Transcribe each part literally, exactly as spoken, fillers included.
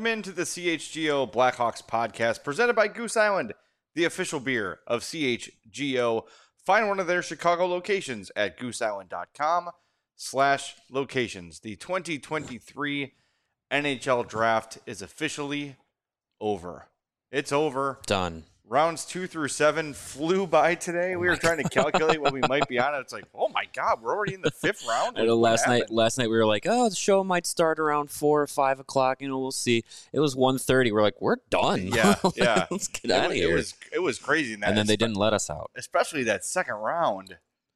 Welcome into the C H G O Blackhawks podcast presented by Goose Island, the official beer of C H G O. Find one of their Chicago locations at gooseisland.com slash locations. The twenty twenty-three N H L draft is officially over. It's over. Done. Rounds two through seven flew by today. We were trying to calculate what we might be on. It's like, oh my God, we're already in the fifth round. I know last night, last night we were like, oh, the show might start around four or five o'clock. You know, we'll see. It was one thirty. We're like, we're done. Yeah, yeah. Let's get out of here. It was, it was crazy. In that and then they didn't let us out. Especially that second round.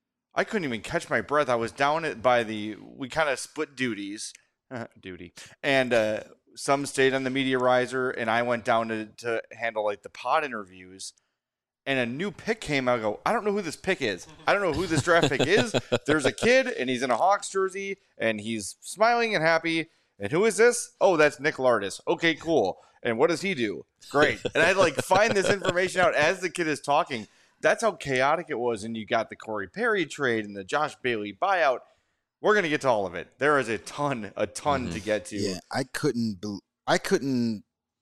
I couldn't even catch my breath. I was down at by the. We kind of split duties, duty, and. uh Some stayed on the media riser, and I went down to, to handle like the pod interviews. And a new pick came out. I go, I don't know who this pick is. I don't know who this draft pick is. There's a kid, and he's in a Hawks jersey, and he's smiling and happy. And who is this? Oh, that's Nick Lardis. Okay, cool. And what does he do? Great. And I like find this information out as the kid is talking. That's how chaotic it was. And you got the Corey Perry trade and the Josh Bailey buyout. We're going to get to all of it. There is a ton, a ton mm-hmm. to get to. Yeah, I couldn't, be, I couldn't,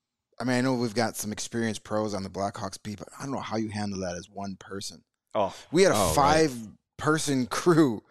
I mean, I know we've got some experienced pros on the Blackhawks beat, but I don't know how you handle that as one person. Oh, we had a oh, five-person right. crew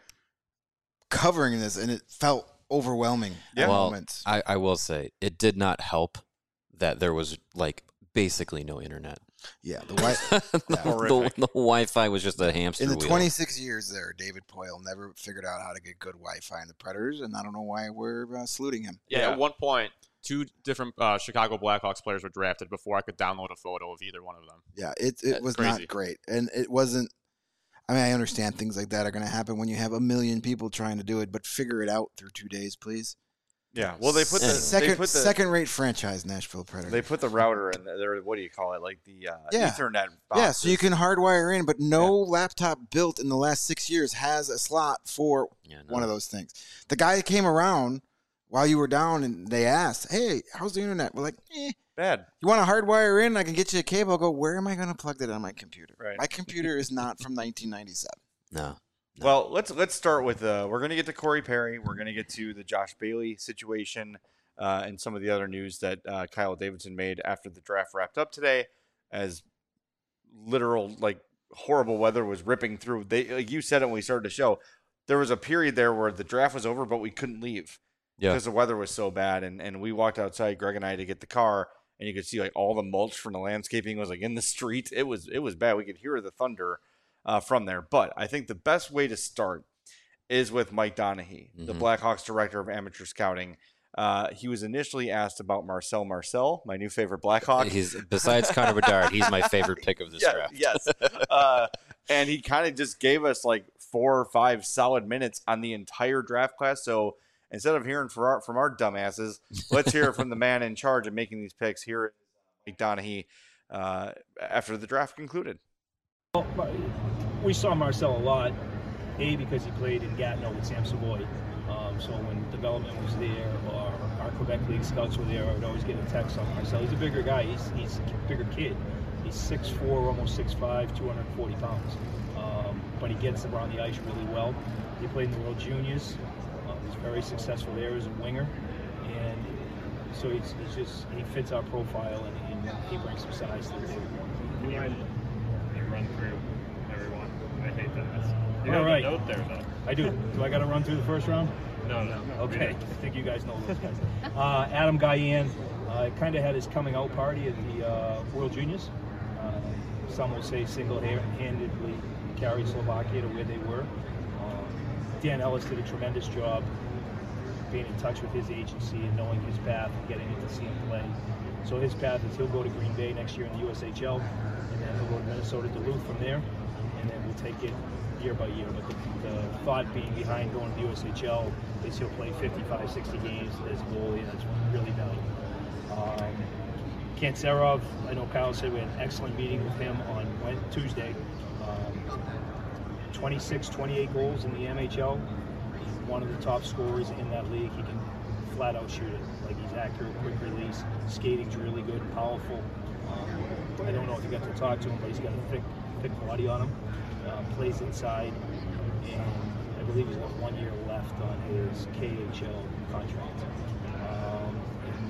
covering this, and it felt overwhelming yeah. at well, moments. I, I will say, it did not help that there was, like, basically no internet. Yeah, the, wi- the, yeah. the, the Wi-Fi was just a hamster In the wheel. twenty-six years there, David Poyle never figured out how to get good Wi-Fi in the Predators, and I don't know why we're uh, saluting him. Yeah, yeah, at one point, two different uh, Chicago Blackhawks players were drafted before I could download a photo of either one of them. Yeah, it it That's was crazy. not great, and it wasn't. I mean, I understand things like that are going to happen when you have a million people trying to do it, but figure it out through two days, please. Yeah, well, they put the second they put the, second-rate franchise, Nashville Predators. They put the router in there. What do you call it? Like the uh, yeah. Ethernet boxes. Yeah, so you can hardwire in, but no yeah. laptop built in the last six years has a slot for yeah, no. one of those things. The guy came around while you were down, and they asked, "Hey, how's the internet?" We're like, "Eh, bad. You want to hardwire in? I can get you a cable." I'll go, where am I going to plug that on my computer? Right. My computer is not from nineteen ninety-seven. No. No. Well, let's let's start with uh, we're going to get to Corey Perry. We're going to get to the Josh Bailey situation. Uh, and some of the other news that uh, Kyle Davidson made after the draft wrapped up today, as literal like horrible weather was ripping through. They like you said it when we started the show. There was a period there where the draft was over, but we couldn't leave yeah. because the weather was so bad. And and we walked outside, Greg and I, to get the car, and you could see like all the mulch from the landscaping was like in the street. It was it was bad. We could hear the thunder uh, from there. But I think the best way to start is with Mike Donaghy, mm-hmm. the Blackhawks director of amateur scouting. Uh, he was initially asked about Marcel Marcel, my new favorite Blackhawk. He's besides Connor Bedard, he's my favorite pick of this yeah, draft. Yes, uh, and he kind of just gave us like four or five solid minutes on the entire draft class. So instead of hearing from our, from our dumbasses, let's hear from the man in charge of making these picks. Here is Mike Donaghy uh, after the draft concluded. Well, we saw Marcel a lot, A, because he played in Gatineau with Sam Savoy. Um, so when development was there, or our Quebec League scouts were there, I would always get a text on Marcel. He's a bigger guy. He's, he's a bigger kid. He's six foot four, almost six foot five, two hundred forty pounds. Um, but he gets around the ice really well. He played in the World Juniors. Uh, he's very successful there as a winger. And so he's, he's just, he fits our profile, and, and he brings some size to the table. Can you, you run through everyone? I hate that. You All have right. a note there, though. I do. Do I got to run through the first round? No, no. Okay. I think you guys know those guys. Uh, Adam Guyan uh, kind of had his coming out party at the uh, World Juniors. Uh, some will say single-handedly carried Slovakia to where they were. Uh, Dan Ellis did a tremendous job being in touch with his agency and knowing his path and getting in to see him play. So his path is he'll go to Green Bay next year in the U S H L, and then he'll go to Minnesota Duluth from there, and then we'll take it year by year. But the, the thought being behind going to the U S H L is he'll play fifty-five, sixty games as a goalie, and that's really valuable. Um, Kantserov, I know Kyle said we had an excellent meeting with him on Tuesday. Um, twenty-six, twenty-eight goals in the M H L. He's one of the top scorers in that league. He can flat out shoot it. Like, he's accurate, quick release, skating's really good, powerful. Um, I don't know if you got to talk to him, but he's got a thick, thick body on him. Uh, plays inside, and I believe he's got one year left on his K H L contract. Um, and then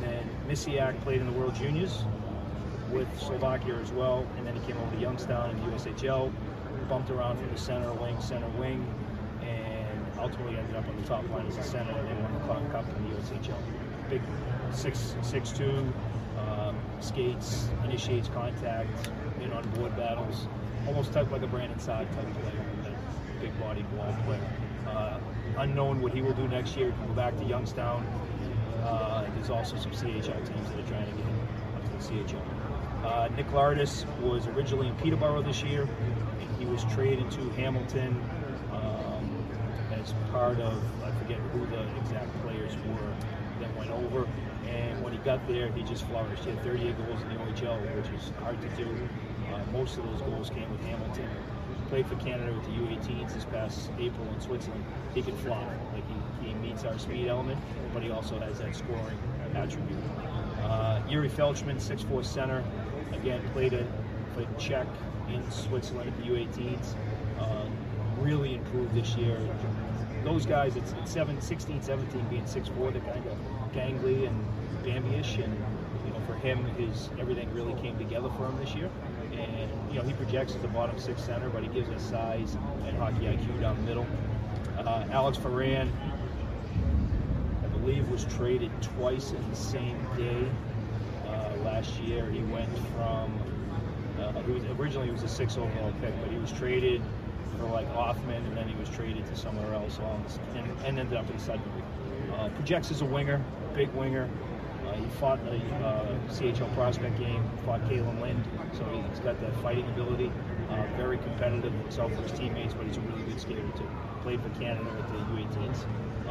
Misiak played in the World Juniors with Slovakia as well, and then he came over to Youngstown in the U S H L, bumped around from the center wing, center wing, and ultimately ended up on the top line as a center, and they won the Clark Cup in the U S H L. Big six six two, um, skates, initiates contact, in on board battles, almost type like a Brandon Saad type player, a big body ball player. Uh, unknown what he will do next year. He can go back to Youngstown. Uh, there's also some C H L teams that are trying to get him up to the C H L. Uh, Nick Lardis was originally in Peterborough this year. He was traded to Hamilton um, as part of, I forget who the exact players were that went over. And when he got there, he just flourished. He had thirty-eight goals in the O H L, which is hard to do. Uh, most of those goals came with Hamilton. He played for Canada with the U eighteens this past April in Switzerland. He can fly. Like he, he meets our speed element, but he also has that scoring attribute. Uh, Yuri Felchman, six four center. Again, played it for Czech in Switzerland at the U eighteens. Uh, really improved this year. Those guys, it's, it's seven, sixteen, seventeen being six four, they're kind of gangly and Bambi-ish, and you know, for him, his everything really came together for him this year. And you know, he projects as a bottom six center, but he gives us size and hockey I Q down the middle. Uh, Alex Ferran, I believe, was traded twice in the same day. Uh, last year, he went from uh, he was originally he was a six overall pick, but he was traded for like Hoffman, and then he was traded to somewhere else, on, and, and ended up in Sudbury. Uh, projects as a winger, big winger. Uh, he fought in the uh, C H L prospect game, fought Kalen Lind, so he's got that fighting ability. Uh, very competitive himself for his teammates, but he's a really good skater too. Played for Canada with the U eighteens.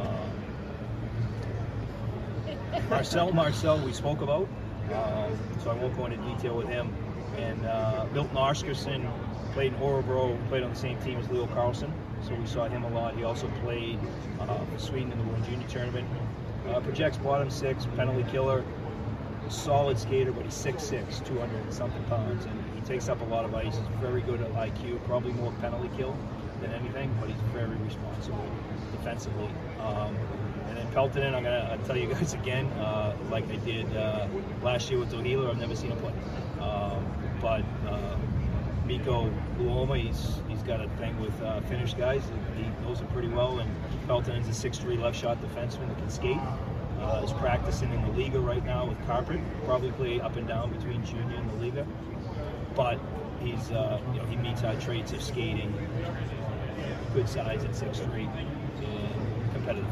Uh, Marcel Marcel, we spoke about, uh, so I won't go into detail with him. And uh, Milton Oscarson played in Orebro, played on the same team as Leo Carlson, so we saw him a lot. He also played uh, for Sweden in the World Junior Tournament. Uh, projects bottom six, penalty killer, solid skater, but he's six six, two hundred and something pounds, and he takes up a lot of ice. He's very good at I Q, probably more penalty kill than anything, but he's very responsible defensively. Um, and then Peltonen, I'm going to tell you guys again, uh, like I did uh, last year with Dohila, I've never seen him play. Um, but uh, Mikko Luoma, he's he's got a thing with uh, Finnish guys. He knows it pretty well, and Peltonen's a six three left shot defenseman that can skate. Uh, is practicing in the Liga right now with Carpet. Probably play up and down between junior and the Liga, but he's uh, you know he meets our traits of skating, good size at six three, and competitive.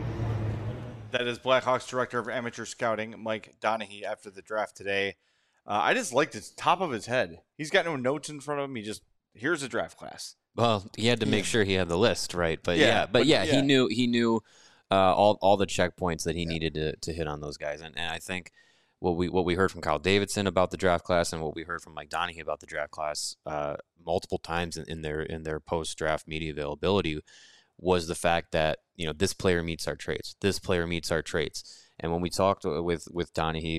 That is Blackhawks Director of Amateur Scouting, Mike Donahue, after the draft today. Uh, I just liked the top of his head. He's got no notes in front of him. He just, here's a draft class. Well, he had to make sure he had the list, right? But Yeah, yeah, but, but yeah, yeah. he knew he knew uh, all all the checkpoints that he needed to, to hit on those guys. And and I think what we what we heard from Kyle Davidson about the draft class, and what we heard from Mike Donahue about the draft class uh, multiple times in, in their in their post draft media availability, was the fact that, you know, this player meets our traits. This player meets our traits. And when we talked with with Donahue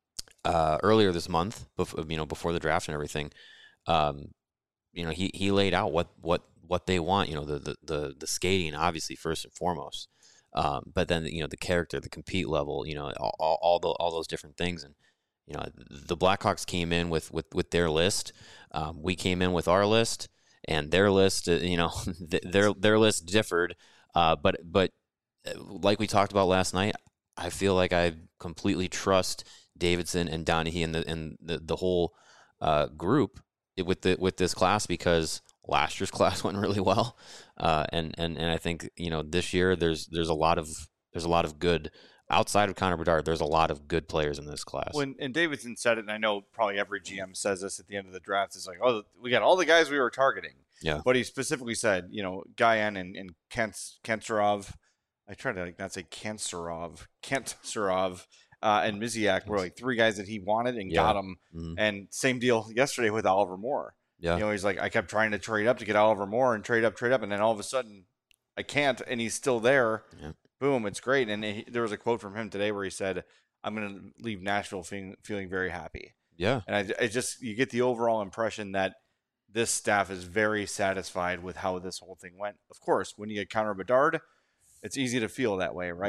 uh, earlier this month, before, you know, before the draft and everything, um, you know, he, he laid out what, what, what they want. You know, the, the the the skating, obviously, first and foremost, um, but then, you know, the character, the compete level, you know, all all, all, the, all those different things. And you know, the Blackhawks came in with with, with their list. Um, we came in with our list. And their list, you know, their their list differed, uh, but but like we talked about last night, I feel like I completely trust Davidson and Donahue and the and the, the whole uh, group with the with this class, because last year's class went really well, uh, and and and I think, you know, this year there's there's a lot of there's a lot of good. Outside of Connor Bedard, there's a lot of good players in this class. When and Davidson said it, and I know probably every G M says this at the end of the draft, is like, oh, we got all the guys we were targeting. Yeah. But he specifically said, you know, Guyan and, and Kent, Kentsarov, I try to like not say Kentsarov, Kentsarov, uh, and Misiak were like three guys that he wanted and Yeah. got them. Mhm. And same deal yesterday with Oliver Moore. Yeah. You know, he's like, I kept trying to trade up to get Oliver Moore and trade up, trade up, and then all of a sudden I can't, and he's still there. Yeah. Boom, it's great. And he, there was a quote from him today where he said, I'm going to leave Nashville feeling, feeling very happy. Yeah. And I, I just, you get the overall impression that this staff is very satisfied with how this whole thing went. Of course, when you get Connor Bedard, it's easy to feel that way, right? Mhm.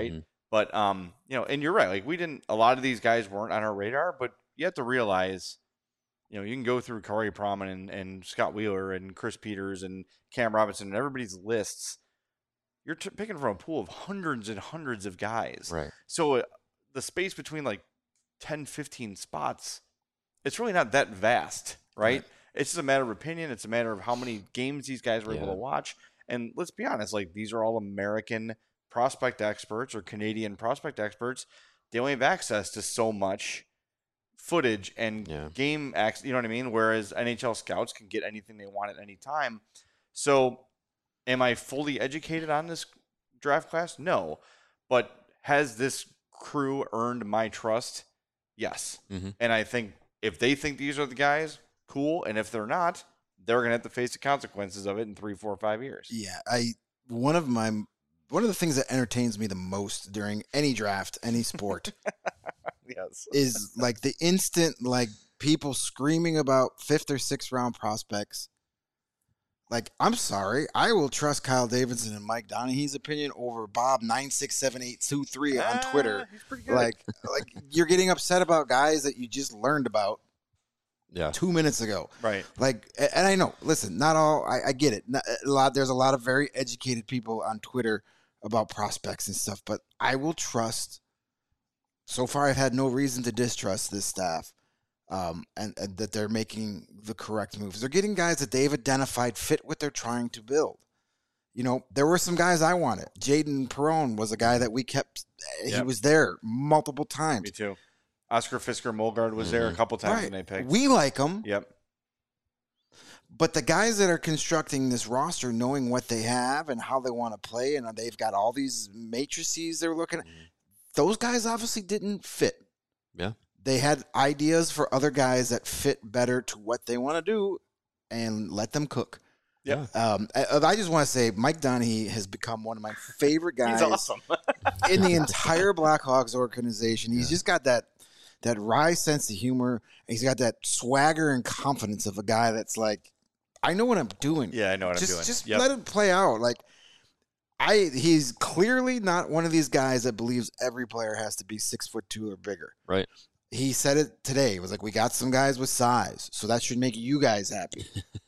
But um, you know, and you're right. Like we didn't. A lot of these guys weren't on our radar, but you have to realize, you know, you can go through Corey Proman and, and Scott Wheeler and Chris Peters and Cam Robinson and everybody's lists. You're t- picking from a pool of hundreds and hundreds of guys. Right. So uh, the space between like ten, fifteen spots, it's really not that vast, right? right? It's just a matter of opinion. It's a matter of how many games these guys were yeah. able to watch. And let's be honest, like these are all American prospect experts or Canadian prospect experts. They only have access to so much footage and yeah. game access, you know what I mean? Whereas N H L scouts can get anything they want at any time. So am I fully educated on this draft class? No. But has this crew earned my trust? Yes. Mm-hmm. And I think if they think these are the guys, cool. And if they're not, they're going to have to face the consequences of it in three, four, five years. Yeah. I, one of my, one of the things that entertains me the most during any draft, any sport, yes, is like the instant, like people screaming about fifth or sixth round prospects. Like, I'm sorry, I will trust Kyle Davidson and Mike Donaghy's opinion over Bob nine six seven eight two three on ah, Twitter. He's pretty good. Like, like you're getting upset about guys that you just learned about. Yeah. Two minutes ago. Right. Like, and I know, listen, not all, I, I get it. Not, a lot, there's a lot of very educated people on Twitter about prospects and stuff, but I will trust, so far I've had no reason to distrust this staff, um, and, and that they're making the correct moves. They're getting guys that they've identified fit what they're trying to build. You know, there were some guys I wanted. Jaden Perron was a guy that we kept, yep. he was there multiple times. Me too. Oscar Fisker-Molgaard was mm-hmm. there a couple times right. when they picked. We like him. Yep. But the guys that are constructing this roster, knowing what they have and how they want to play, and they've got all these matrices they're looking at, mm-hmm. those guys obviously didn't fit. Yeah. They had ideas for other guys that fit better to what they want to do and let them cook. Yeah. Um, I, I just want to say Mike Donaghy has become one of my favorite guys He's awesome. in the entire Blackhawks organization. He's yeah. just got that that wry sense of humor. He's got that swagger and confidence of a guy that's like, I know what I'm doing. Yeah, I know what just, I'm doing. Just yep. let it play out. Like, I, he's clearly not one of these guys that believes every player has to be six foot two or bigger. Right. He said it today. He was like, we got some guys with size, so that should make you guys happy.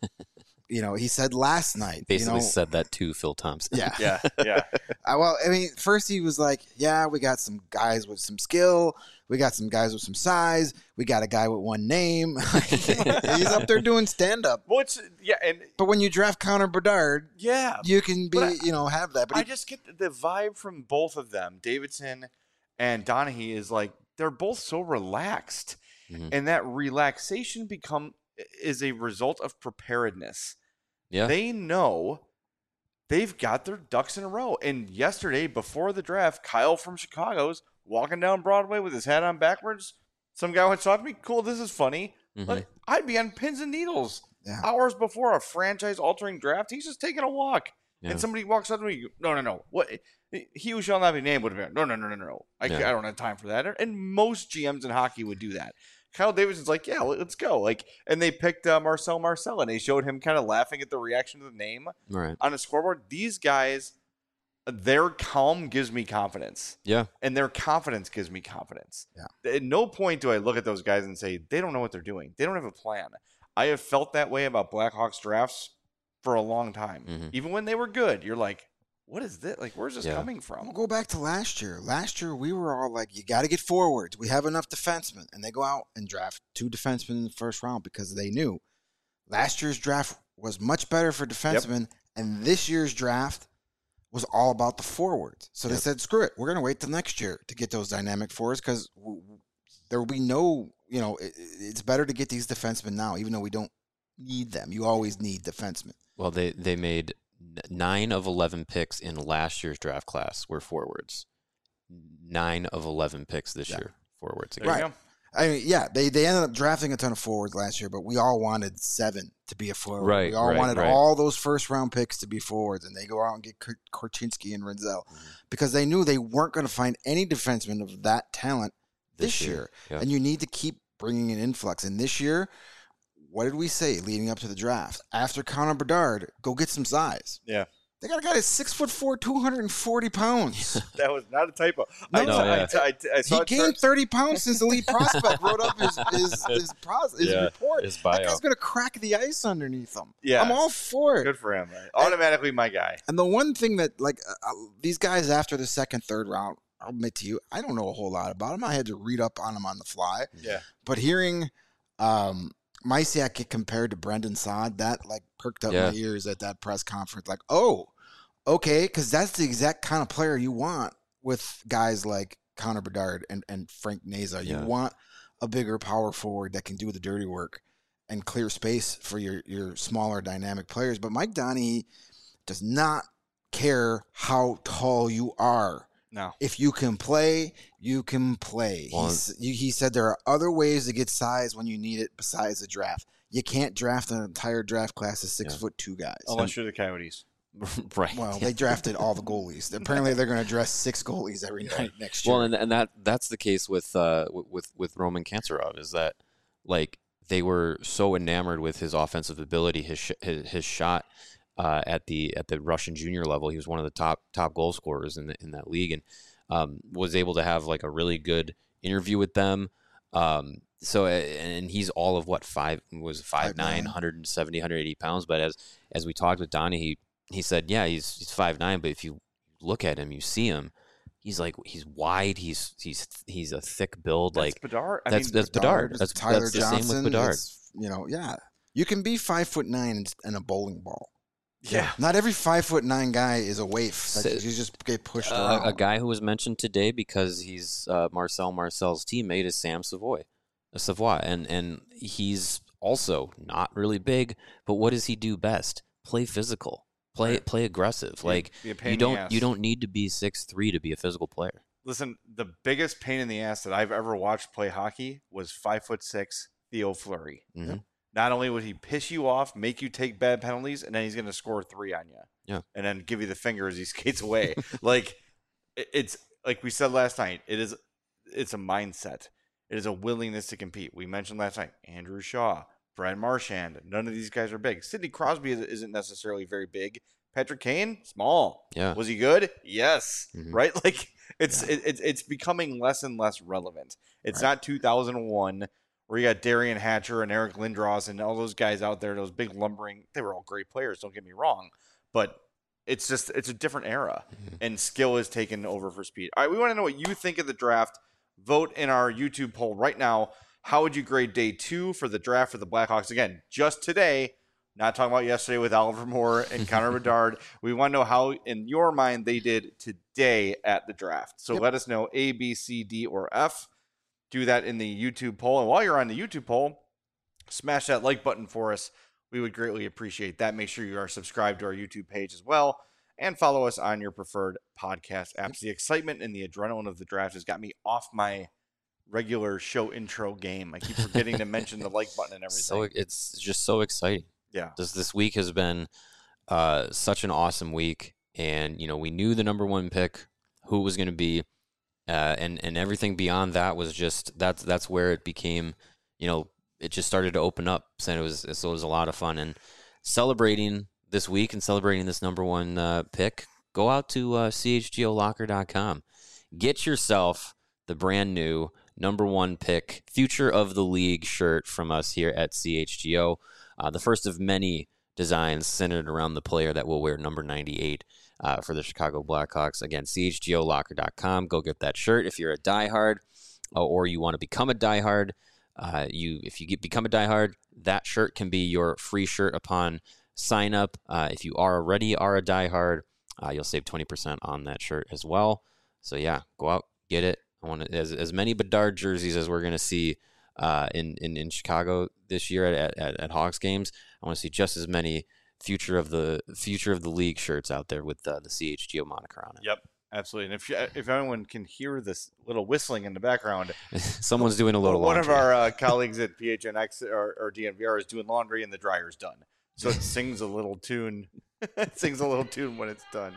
You know, he said last night. Basically you know, said that to Phil Thompson. Yeah. yeah. Yeah. Uh, well, I mean, first he was like, yeah, we got some guys with some skill. We got some guys with some size. We got a guy with one name. He's up there doing stand-up. Well, it's, yeah, and but when you draft Connor Bedard, yeah, you can be, I, you know, have that. But I he, just get the vibe from both of them, Davidson and Donaghy, is like they're both so relaxed, mm-hmm. and that relaxation become is a result of preparedness. Yeah. They know they've got their ducks in a row. And yesterday, before the draft, Kyle from Chicago's walking down Broadway with his hat on backwards. Some guy went to talk to me. Cool, this is funny. Mm-hmm. But I'd be on pins and needles yeah. hours before a franchise-altering draft. He's just taking a walk. Yeah. And somebody walks up to me. No, no, no. What? He who shall not be named would have been. No, no, no, no, no. I, yeah. I don't have time for that. And most G Ms in hockey would do that. Kyle Davidson's like, yeah, let's go. Like, and they picked uh, Marcel Marcel, and they showed him kind of laughing at the reaction to the name right. on a scoreboard. These guys, their calm gives me confidence. Yeah. And their confidence gives me confidence. Yeah. At no point do I look at those guys and say, they don't know what they're doing. They don't have a plan. I have felt that way about Blackhawks drafts for a long time. Mm-hmm. Even when they were good, you're like, what is this? Like, where's this yeah. coming from? We'll go back to last year. Last year, we were all like, you got to get forwards. We have enough defensemen. And they go out and draft two defensemen in the first round because they knew last year's draft was much better for defensemen. Yep. And this year's draft was all about the forwards. So yep. they said, screw it. We're going to wait till next year to get those dynamic forwards because w- there will be no, you know, it, it's better to get these defensemen now, even though we don't need them. You always need defensemen. Well, they, they made nine of eleven picks in last year's draft class were forwards. Nine of eleven picks this yeah. year forwards. There you right. Go. I mean, yeah, they, they ended up drafting a ton of forwards last year, but we all wanted seven to be a forward. Right, we all right, wanted right. all those first round picks to be forwards, and they go out and get Korchinski and Renzel mm-hmm. because they knew they weren't going to find any defenseman of that talent this, this year. year. Yeah. And you need to keep bringing an influx. And this year, what did we say leading up to the draft? After Connor Bedard, go get some size. Yeah. They got a guy that's six foot four, two hundred forty pounds. That was not a typo. No, I, no, I, yeah. I, I, I saw He it gained start- thirty pounds since the lead prospect wrote up his his his, pros, his Yeah, report. his That bio. guy's gonna crack the ice underneath him. Yeah. I'm all for it. Good for him. Automatically my guy. And the one thing that, like, uh, uh, these guys after the second, third round, I'll admit to you, I don't know a whole lot about them. I had to read up on them on the fly. Yeah. But hearing um, Mysiak get compared to Brendan Saad, that, like, perked up Yeah. my ears at that press conference. Like, oh, okay, because that's the exact kind of player you want with guys like Connor Bedard and, and Frank Neza. You Yeah. want a bigger power forward that can do the dirty work and clear space for your, your smaller dynamic players. But Mike Donnie does not care how tall you are. No. If you can play, you can play. Well, He's, you, he said there are other ways to get size when you need it besides the draft. You can't draft an entire draft class of six Yeah. foot two guys. Unless you're the Coyotes. right. Well, they drafted all the goalies. Apparently, they're going to dress six goalies every night next year. Well, and and that that's the case with uh with with Roman Kantsarov is that like they were so enamored with his offensive ability, his sh- his, his shot uh, at the at the Russian junior level. He was one of the top top goal scorers in the, in that league, and um, was able to have like a really good interview with them. Um, so and he's all of what five was five nine, one seventy, one eighty pounds. But as as we talked with Donnie, he he said, yeah, he's he's five nine, but if you look at him, you see him. He's like he's wide. He's he's he's a thick build. That's like Bedard. I that's mean, that's Bedard. That's Tyler that's the Johnson. same with Bedard. it's, You know, yeah. You can be five foot nine and, and a bowling ball. yeah. Not every five foot nine guy is a waif. Like, So- you just get pushed Uh, around. a guy who was mentioned today because he's uh, Marcel Marcel's teammate is Sam Savoy, uh, Savoy, and and he's also not really big. But what does he do best? Play physical. Play Right. play aggressive. Be- Like be a pain you in the don't ass. you don't need to be six three to be a physical player. Listen, the biggest pain in the ass that I've ever watched play hockey was five foot six Theo Fleury. Mhm. Not only would he piss you off, make you take bad penalties, and then he's going to score three on you. Yeah. And then give you the finger as he skates away. like it- it's like we said last night. It is it's a mindset. It is a willingness to compete. We mentioned last night Andrew Shaw, Brad Marchand. None of these guys are big. Sidney Crosby is- isn't necessarily very big. Patrick Kane, small. Yeah. Was he good? Yes. Mhm. Right? Like it's it, it's it's becoming less and less relevant. It's Right. not two thousand one where you got Darian Hatcher and Eric Lindros and all those guys out there, those big lumbering. They were all great players. Don't get me wrong, but it's just it's a different era, Mhm. and skill is taken over for speed. All right, we want to know what you think of the draft. Vote in our YouTube poll right now. How would you grade day two for the draft for the Blackhawks? Again, just today. Not talking about yesterday with Oliver Moore and Connor Bedard. We want to know how, in your mind, they did today at the draft. So Yep. let us know A, B, C, D, or F. Do that in the YouTube poll. And while you're on the YouTube poll, smash that like button for us. We would greatly appreciate that. Make sure you are subscribed to our YouTube page as well. And follow us on your preferred podcast apps. The excitement and the adrenaline of the draft has got me off my regular show intro game. I keep forgetting to mention the like button and everything. So it's just so exciting. Yeah. This this week has been uh, such an awesome week, and you know we knew the number one pick, who it was going to be, uh, and and everything beyond that was just that's that's where it became, you know, it just started to open up. So it was so it was a lot of fun and celebrating this week and celebrating this number one uh, pick. Go out to uh, C H G O locker dot com, get yourself the brand new number one pick, future of the league shirt from us here at C H G O. Uh, the first of many designs centered around the player that will wear number ninety-eight uh, for the Chicago Blackhawks. Again, C H G O locker dot com. Go get that shirt if you're a diehard uh, or you want to become a diehard. Uh, you, if you get, become a diehard, that shirt can be your free shirt upon sign up. Uh, if you are already are a diehard, uh, you'll save twenty percent on that shirt as well. So yeah, go out, get it. I want to, as as many Bedard jerseys as we're going to see uh, in, in in Chicago this year at, at at Hawks games. I want to see just as many future of the future of the league shirts out there with uh, the C H G O moniker on it. Yep, absolutely. And if you, if anyone can hear this little whistling in the background, Someone's doing a little one laundry. of our uh, colleagues at P H N X or, or D N V R is doing laundry and the dryer's done. So it sings a little tune. It sings a little tune when it's done.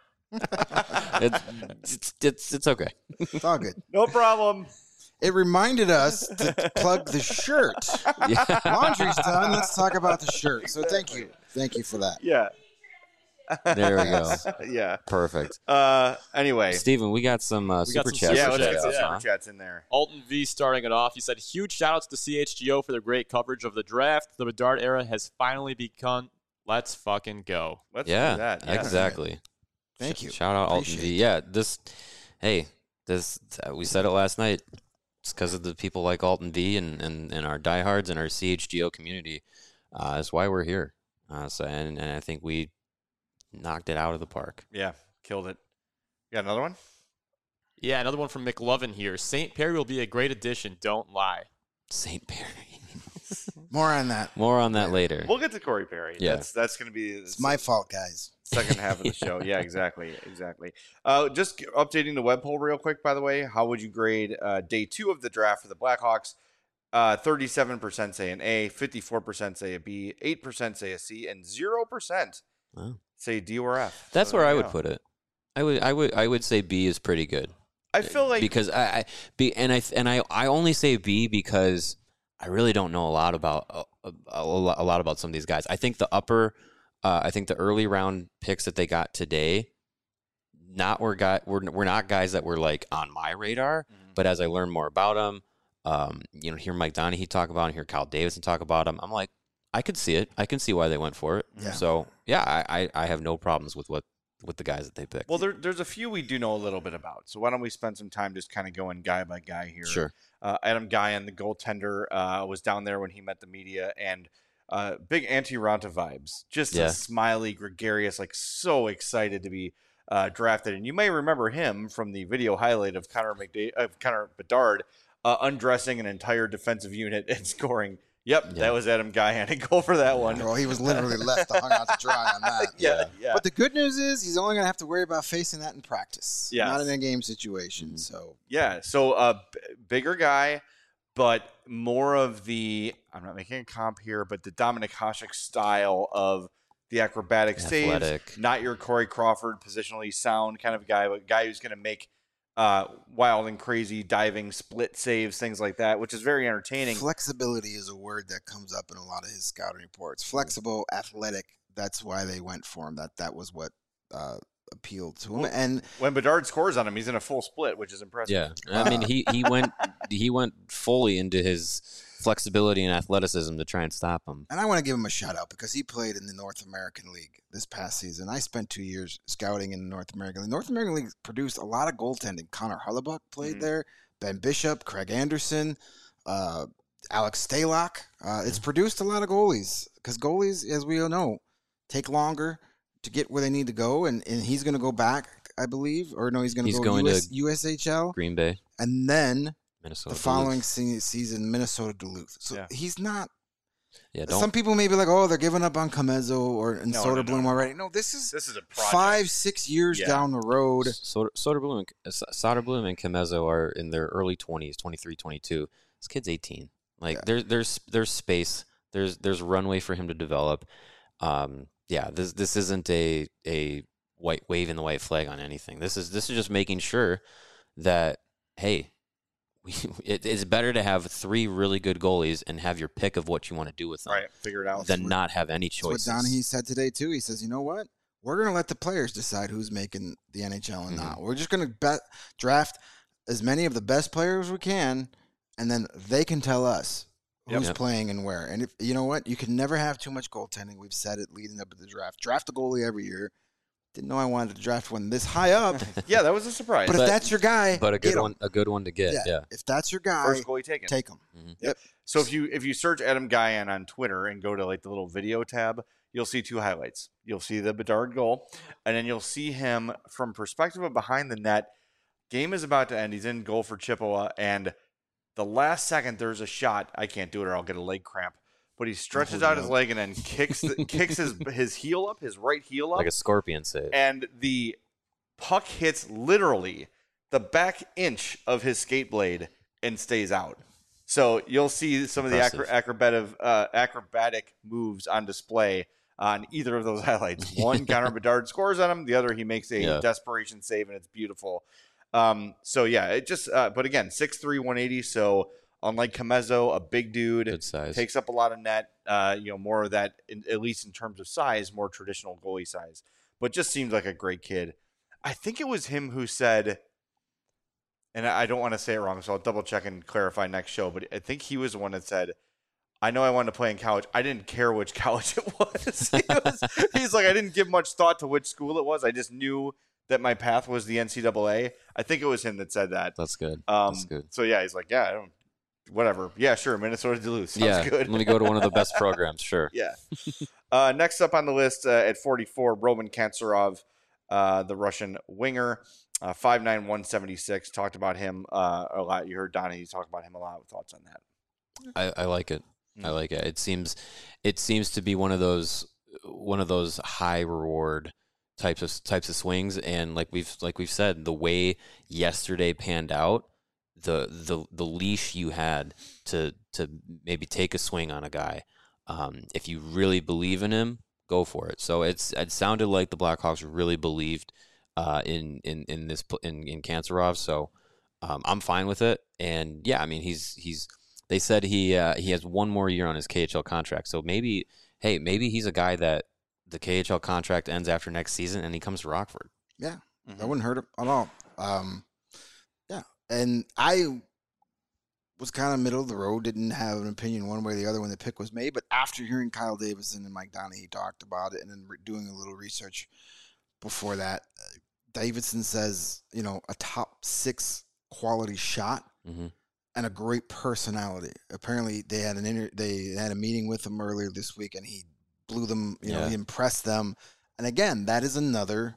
it's, it's it's it's okay. It's all good. No problem. It reminded us to plug the shirt. Yeah. Laundry's done. Let's talk about the shirt. So thank you. Thank you for that. Yeah. There we go. Yeah. Perfect. Uh, anyway. Steven, we got some uh, We got super some chats. Yeah, super let's get chats, some yeah. super chats in there. Alton V starting it off. He said, huge shout outs to C H G O for their great coverage of the draft. The Bedard era has finally begun. Let's fucking go. Let's Yeah, do that. Yeah. exactly. Thank Sh- you. Shout out Alton Appreciate V. it. Yeah, this, hey, this, uh, we said it last night. It's because of the people like Alton V and, and, and our diehards and our C H G O community. Uh, that's why we're here. Uh, so, and, and I think we knocked it out of the park. Yeah, killed it. You got another one? Yeah, another one from McLovin here. Saint Perry will be a great addition. Don't lie. Saint Perry. More on that. More on that later. We'll get to Corey Perry. Yeah. That's, that's going to be It's my fault, guys. second half of the show. Yeah, exactly. Exactly. Uh, just g- updating the web poll real quick, by the way. How would you grade uh, day two of the draft for the Blackhawks? Uh, thirty-seven percent say an A, fifty-four percent say a B, eight percent say a C, and zero percent Wow. say D or F. That's So where there I you would go. put it. I would, I would, I would say B is pretty good. I feel like because I, I B and I and I, I only say B because I really don't know a lot about a, a, a lot a lot about some of these guys. I think the upper, uh, I think the early round picks that they got today, not were guy we're we're not guys that were like on my radar. Mhm. But as I learn more about them, um, you know, hear Mike Donahue talk about, and hear Kyle Davidson talk about them, I'm like, I could see it. I can see why they went for it. Yeah. So yeah, I, I, I have no problems with what with the guys that they picked. well, there, there's a few we do know a little bit about. So why don't we spend some time just kind of going guy by guy here? Sure. Uh, Adam Guyan, the goaltender, uh, was down there when he met the media, and uh, big anti-Ranta vibes. Just Yeah. a smiley, gregarious, like so excited to be uh, drafted. And you may remember him from the video highlight of Connor McDa- of Connor Bedard uh, undressing an entire defensive unit and scoring. Yep, Yeah. that was Adam Guyan. And go for that one. Well, he was literally left hung out to dry on that. yeah, yeah. But the good news is he's only going to have to worry about facing that in practice, Yes. not in a game situation. Mhm. So Yeah, so a uh, b- bigger guy, but more of the, I'm not making a comp here, but the Dominic Hasek style of the acrobatic saves. Athletic. Not your Corey Crawford, positionally sound kind of guy, but a guy who's going to make uh, wild and crazy diving split saves, things like that, which is very entertaining. flexibility is a word that comes up in a lot of his scouting reports. Flexible, athletic. That's why they went for him. That that was what uh, appealed to him. Well, And When Bedard scores on him, he's in a full split, which is impressive. Yeah, I mean he he went he went fully into his flexibility and athleticism to try and stop him. And I want to give him a shout out because he played in the North American League this past season. I spent two years scouting in the North American League. The North American League produced a lot of goaltending. Connor Hellebuck played Mhm. there, Ben Bishop, Craig Anderson, uh, Alex Stalock. Uh, it's produced a lot of goalies because goalies, as we all know, take longer to get where they need to go. And, and he's going to go back, I believe. Or no, he's going to He's go going U S, to U S H L. Green Bay, And then Minnesota. the following Duluth. se- season, Minnesota Duluth. So Yeah. he's not. yeah, don't Some people may be like, "Oh, they're giving up on Comezo or and No, no, no, Soderblom no. already." No, this is This is a project. five, six years Yeah. down the road. Soder, Soderblom, and, uh, Soderblom and Kimezo are in their early twenties, twenty-three, twenty-two. This kid's eighteen. Like Yeah. there's there's there's space. There's there's runway for him to develop. Um, yeah, this this isn't a a white waving the white flag on anything. This is this is just making sure that hey, we, it, it's better to have three really good goalies and have your pick of what you want to do with them Right, figure it out. than not have any That's what choices. Donahue said today too. He says, "You know what? We're going to let the players decide who's making the N H L and Mhm. not. We're just going to bet draft as many of the best players as we can, and then they can tell us who's Yep. playing and where. And if you know what, you can never have too much goaltending. We've said it leading up to the draft. Draft a goalie every year. Didn't know I wanted to draft one this high up, Yeah, that was a surprise. but, But- if that's your guy, but a get good him. one, a good one to get. Yeah. Yeah. If that's your guy, First goalie taken. take him. So if you if you search Adam Guyan on Twitter and go to like the little video tab, you'll see two highlights. You'll see the Bedard goal, and then you'll see him from perspective of behind the net. Game is about to end. He's in goal for Chippewa, and the last second there's a shot. I can't do it, or I'll get a leg cramp. But he stretches hold out it his up. leg and then kicks the, kicks his his heel up, his right heel up, Like a scorpion save. and the puck hits literally the back inch of his skate blade and stays out. So you'll see some of the acro- Impressive. acrobatic uh, acrobatic moves on display on either of those highlights. One, Connor Bedard scores on him. The other, he makes a Yeah. desperation save, and it's beautiful. Um, so yeah, it just. Uh, but again, six three, one eighty. So unlike Comezo, a big dude, Good size. takes up a lot of net. Uh, you know, more of that, in, at least in terms of size, more traditional goalie size. but just seems like a great kid. I think it was him who said, and I don't want to say it wrong, so I'll double check and clarify next show, but I think he was the one that said, I know I wanted to play in college. I didn't care which college it was. he was he's like, I didn't give much thought to which school it was. I just knew that my path was the N C double A. I think it was him that said that. That's good. Um, That's good. So, yeah, he's like, yeah, I don't, whatever. Yeah, sure, Minnesota Duluth. Sounds yeah, good. let me go to one of the best programs, sure. Yeah. Uh, next up on the list uh, at forty-four, Roman Kantsarov, uh, the Russian winger, uh, five nine, one seventy-six. Talked about him uh, a lot. You heard Donnie talk about him a lot. Thoughts on that? I, I like it. I like it. It seems, it seems to be one of those, one of those high reward types of types of swings. And like we've like we've said, the way yesterday panned out, the the the leash you had to to maybe take a swing on a guy, um, if you really believe in him, go for it. So it's it sounded like the Blackhawks really believed uh, in in in this in in Kantsarov. So um, I'm fine with it. And yeah, I mean he's he's. They said he uh, he has one more year on his K H L contract. So maybe, hey, maybe he's a guy that the K H L contract ends after next season and he comes to Rockford. Yeah, Mhm. that wouldn't hurt him at all. Um, yeah, and I was kind of middle of the road, didn't have an opinion one way or the other when the pick was made. But after hearing Kyle Davidson and Mike Donahue talked about it and then re- doing a little research before that, uh, Davidson says, you know, a top six quality shot. Mm-hmm. And a great personality. Apparently, they had an inter- they had a meeting with him earlier this week, and he blew them. You know, Yeah. he impressed them. And again, that is another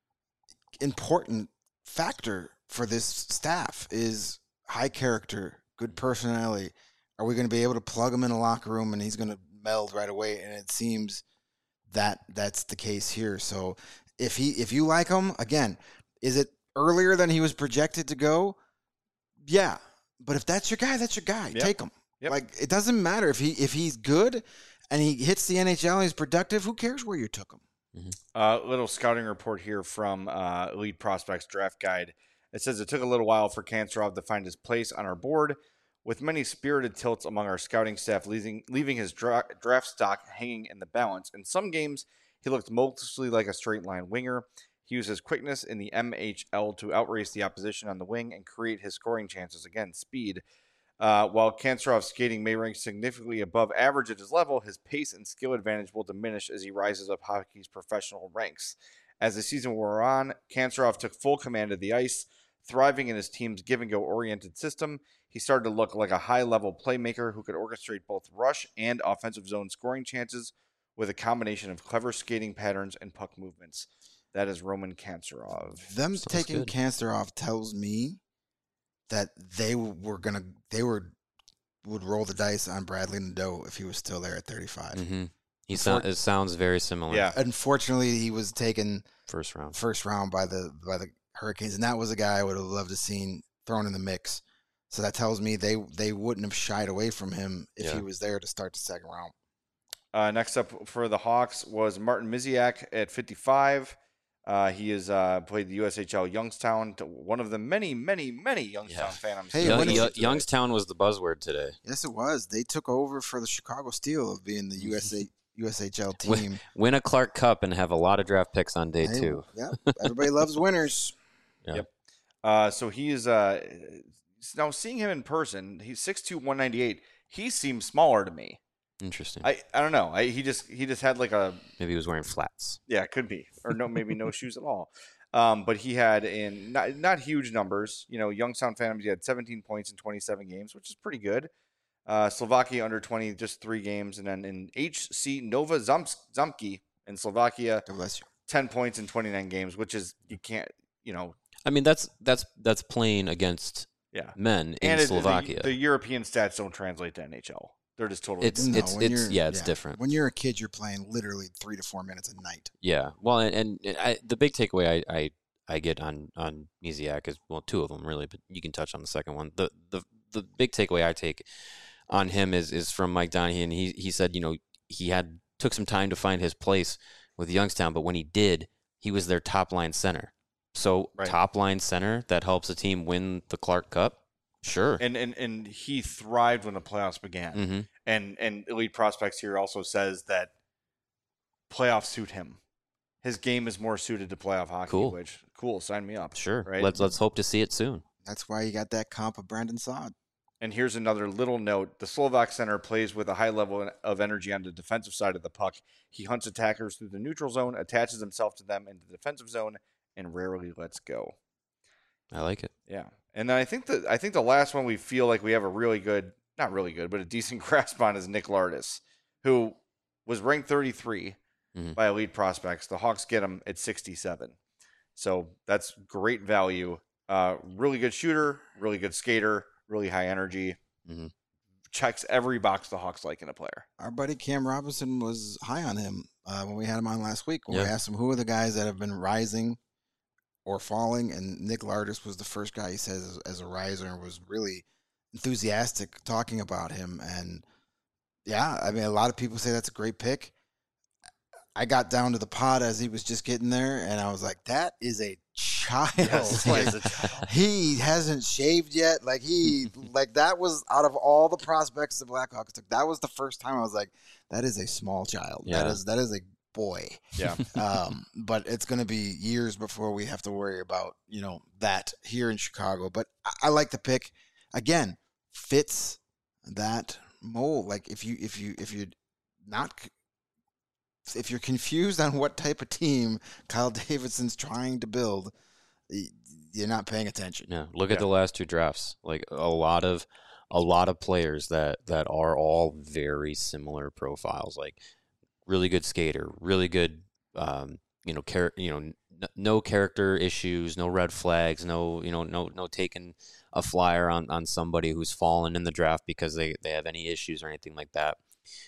important factor for this staff: is high character, good personality. Are we going to be able to plug him in a locker room and he's going to meld right away? And it seems that that's the case here. So if he if you like him, again, is it earlier than he was projected to go? Yeah. But if that's your guy, that's your guy. Yep. Take him. Yep. Like, it doesn't matter if he if he's good and he hits the N H L and he's productive. Who cares where you took him? Uh, little scouting report here from uh, Elite Prospects Draft Guide. It says it took a little while for Kantsarov to find his place on our board, with many spirited tilts among our scouting staff, leaving leaving his dra- draft stock hanging in the balance. In some games, he looked mostly like a straight line winger. He used his quickness in the M H L to outrace the opposition on the wing and create his scoring chances. Again, speed. Uh, while Kantsarov's skating may rank significantly above average at his level, his pace and skill advantage will diminish as he rises up hockey's professional ranks. As the season wore on, Kantsarov took full command of the ice, thriving in his team's give-and-go oriented system. He started to look like a high-level playmaker who could orchestrate both rush and offensive zone scoring chances with a combination of clever skating patterns and puck movements. That is Roman Kantsarov. Them Sounds taking good. Kantsarov tells me that they were gonna they were would roll the dice on Bradley Nadeau if he was still there at thirty-five. Mm-hmm. He so, it sounds very similar. Yeah. Unfortunately, he was taken First round. first round by the by the Hurricanes, and that was a guy I would have loved to seen thrown in the mix. So that tells me they they wouldn't have shied away from him if Yeah. he was there to start the second round. Uh, next up for the Hawks was Martin Miziak at fifty-five. Uh, he has uh, played the U S H L Youngstown, to one of the many, many, many Youngstown Yeah. fans. Hey, Young- when is Young- it today? Youngstown was the buzzword today. Yes, it was. They took over for the Chicago Steel of being the U S A U S H L Win- team. Win a Clark Cup and have a lot of draft picks on day Hey, two. Yeah, everybody loves winners. Uh, so he is uh, now seeing him in person. He's six two, one ninety-eight. He seems smaller to me. Interesting. I, I don't know. I, he just he just had like a Maybe he was wearing flats. yeah, it could be or no maybe no shoes at all. Um, but he had in not not huge numbers. You know, Youngstown Phantoms. He had seventeen points in twenty-seven games, which is pretty good. Uh, Slovakia under twenty, just three games, and then in H C Nova Zamsk, Zamki in Slovakia, God bless you. ten points in twenty-nine games, which is you can't you know I mean, that's that's that's playing against yeah. men in And it- Slovakia. the, the European stats don't translate to N H L. They're just totally It's- No, it's- when it's- you're- yeah, it's different. When you're a kid, you're playing literally three to four minutes a night. Yeah, well, and, and, and I, the big takeaway I, I, I get on on Miziak is well, two of them really, but you can touch on the second one. The the the big takeaway I take on him is is from Mike Donahue, and he he said, you know, he had took some time to find his place with Youngstown, but when he did, he was their top line center. So Right. top line center that helps a team win the Clark Cup. Sure. and and and he thrived when the playoffs began. Mm-hmm. And and Elite Prospects here also says that playoffs suit him. his game is more suited to playoff hockey. Cool. Which cool, sign me up. Sure. Right. Let's let's hope to see it soon. That's why you got that comp of Brandon Saad. And here's another little note. The Slovak center plays with a high level of energy on the defensive side of the puck. He hunts attackers through the neutral zone, attaches himself to them in the defensive zone, and rarely lets go. I like it. Yeah. And then I think that I think the last one we feel like we have a really good, not really good, but a decent grasp on is Nick Lardis, who was ranked thirty-three mm-hmm. by Elite Prospects. The Hawks get him at sixty-seven. So that's great value. Uh, really good shooter, really good skater, really high energy. Mm-hmm. Checks every box the Hawks like in a player. Our buddy Cam Robinson was high on him uh, when we had him on last week. When yeah. we asked him who are the guys that have been rising or falling, and Nick Lardis was the first guy he says as, as a riser, and was really enthusiastic talking about him. And yeah, I mean, a lot of people say that's a great pick. I got down to the pod as he was just getting there, and I was like, that is a child. Yes, like, he, is a child. He hasn't shaved yet. Like, he, like, that was out of all the prospects the Blackhawks took, that was the first time I was like, that is a small child. Yeah. That is, that is a boy. Yeah. um, but it's going to be years before we have to worry about, you know, that here in Chicago. But I, I like the pick. Again, fits that mold. Like, if you, if you, if you're not, if you're confused on what type of team Kyle Davidson's trying to build, you're not paying attention. Yeah, look Yeah. at the last two drafts. Like a lot of, a lot of players that that are all very similar profiles. Like really good skater, really good, um, you know, char- you know, n- no character issues, no red flags, no, you know, no, no taking a flyer on on somebody who's fallen in the draft because they they have any issues or anything like that.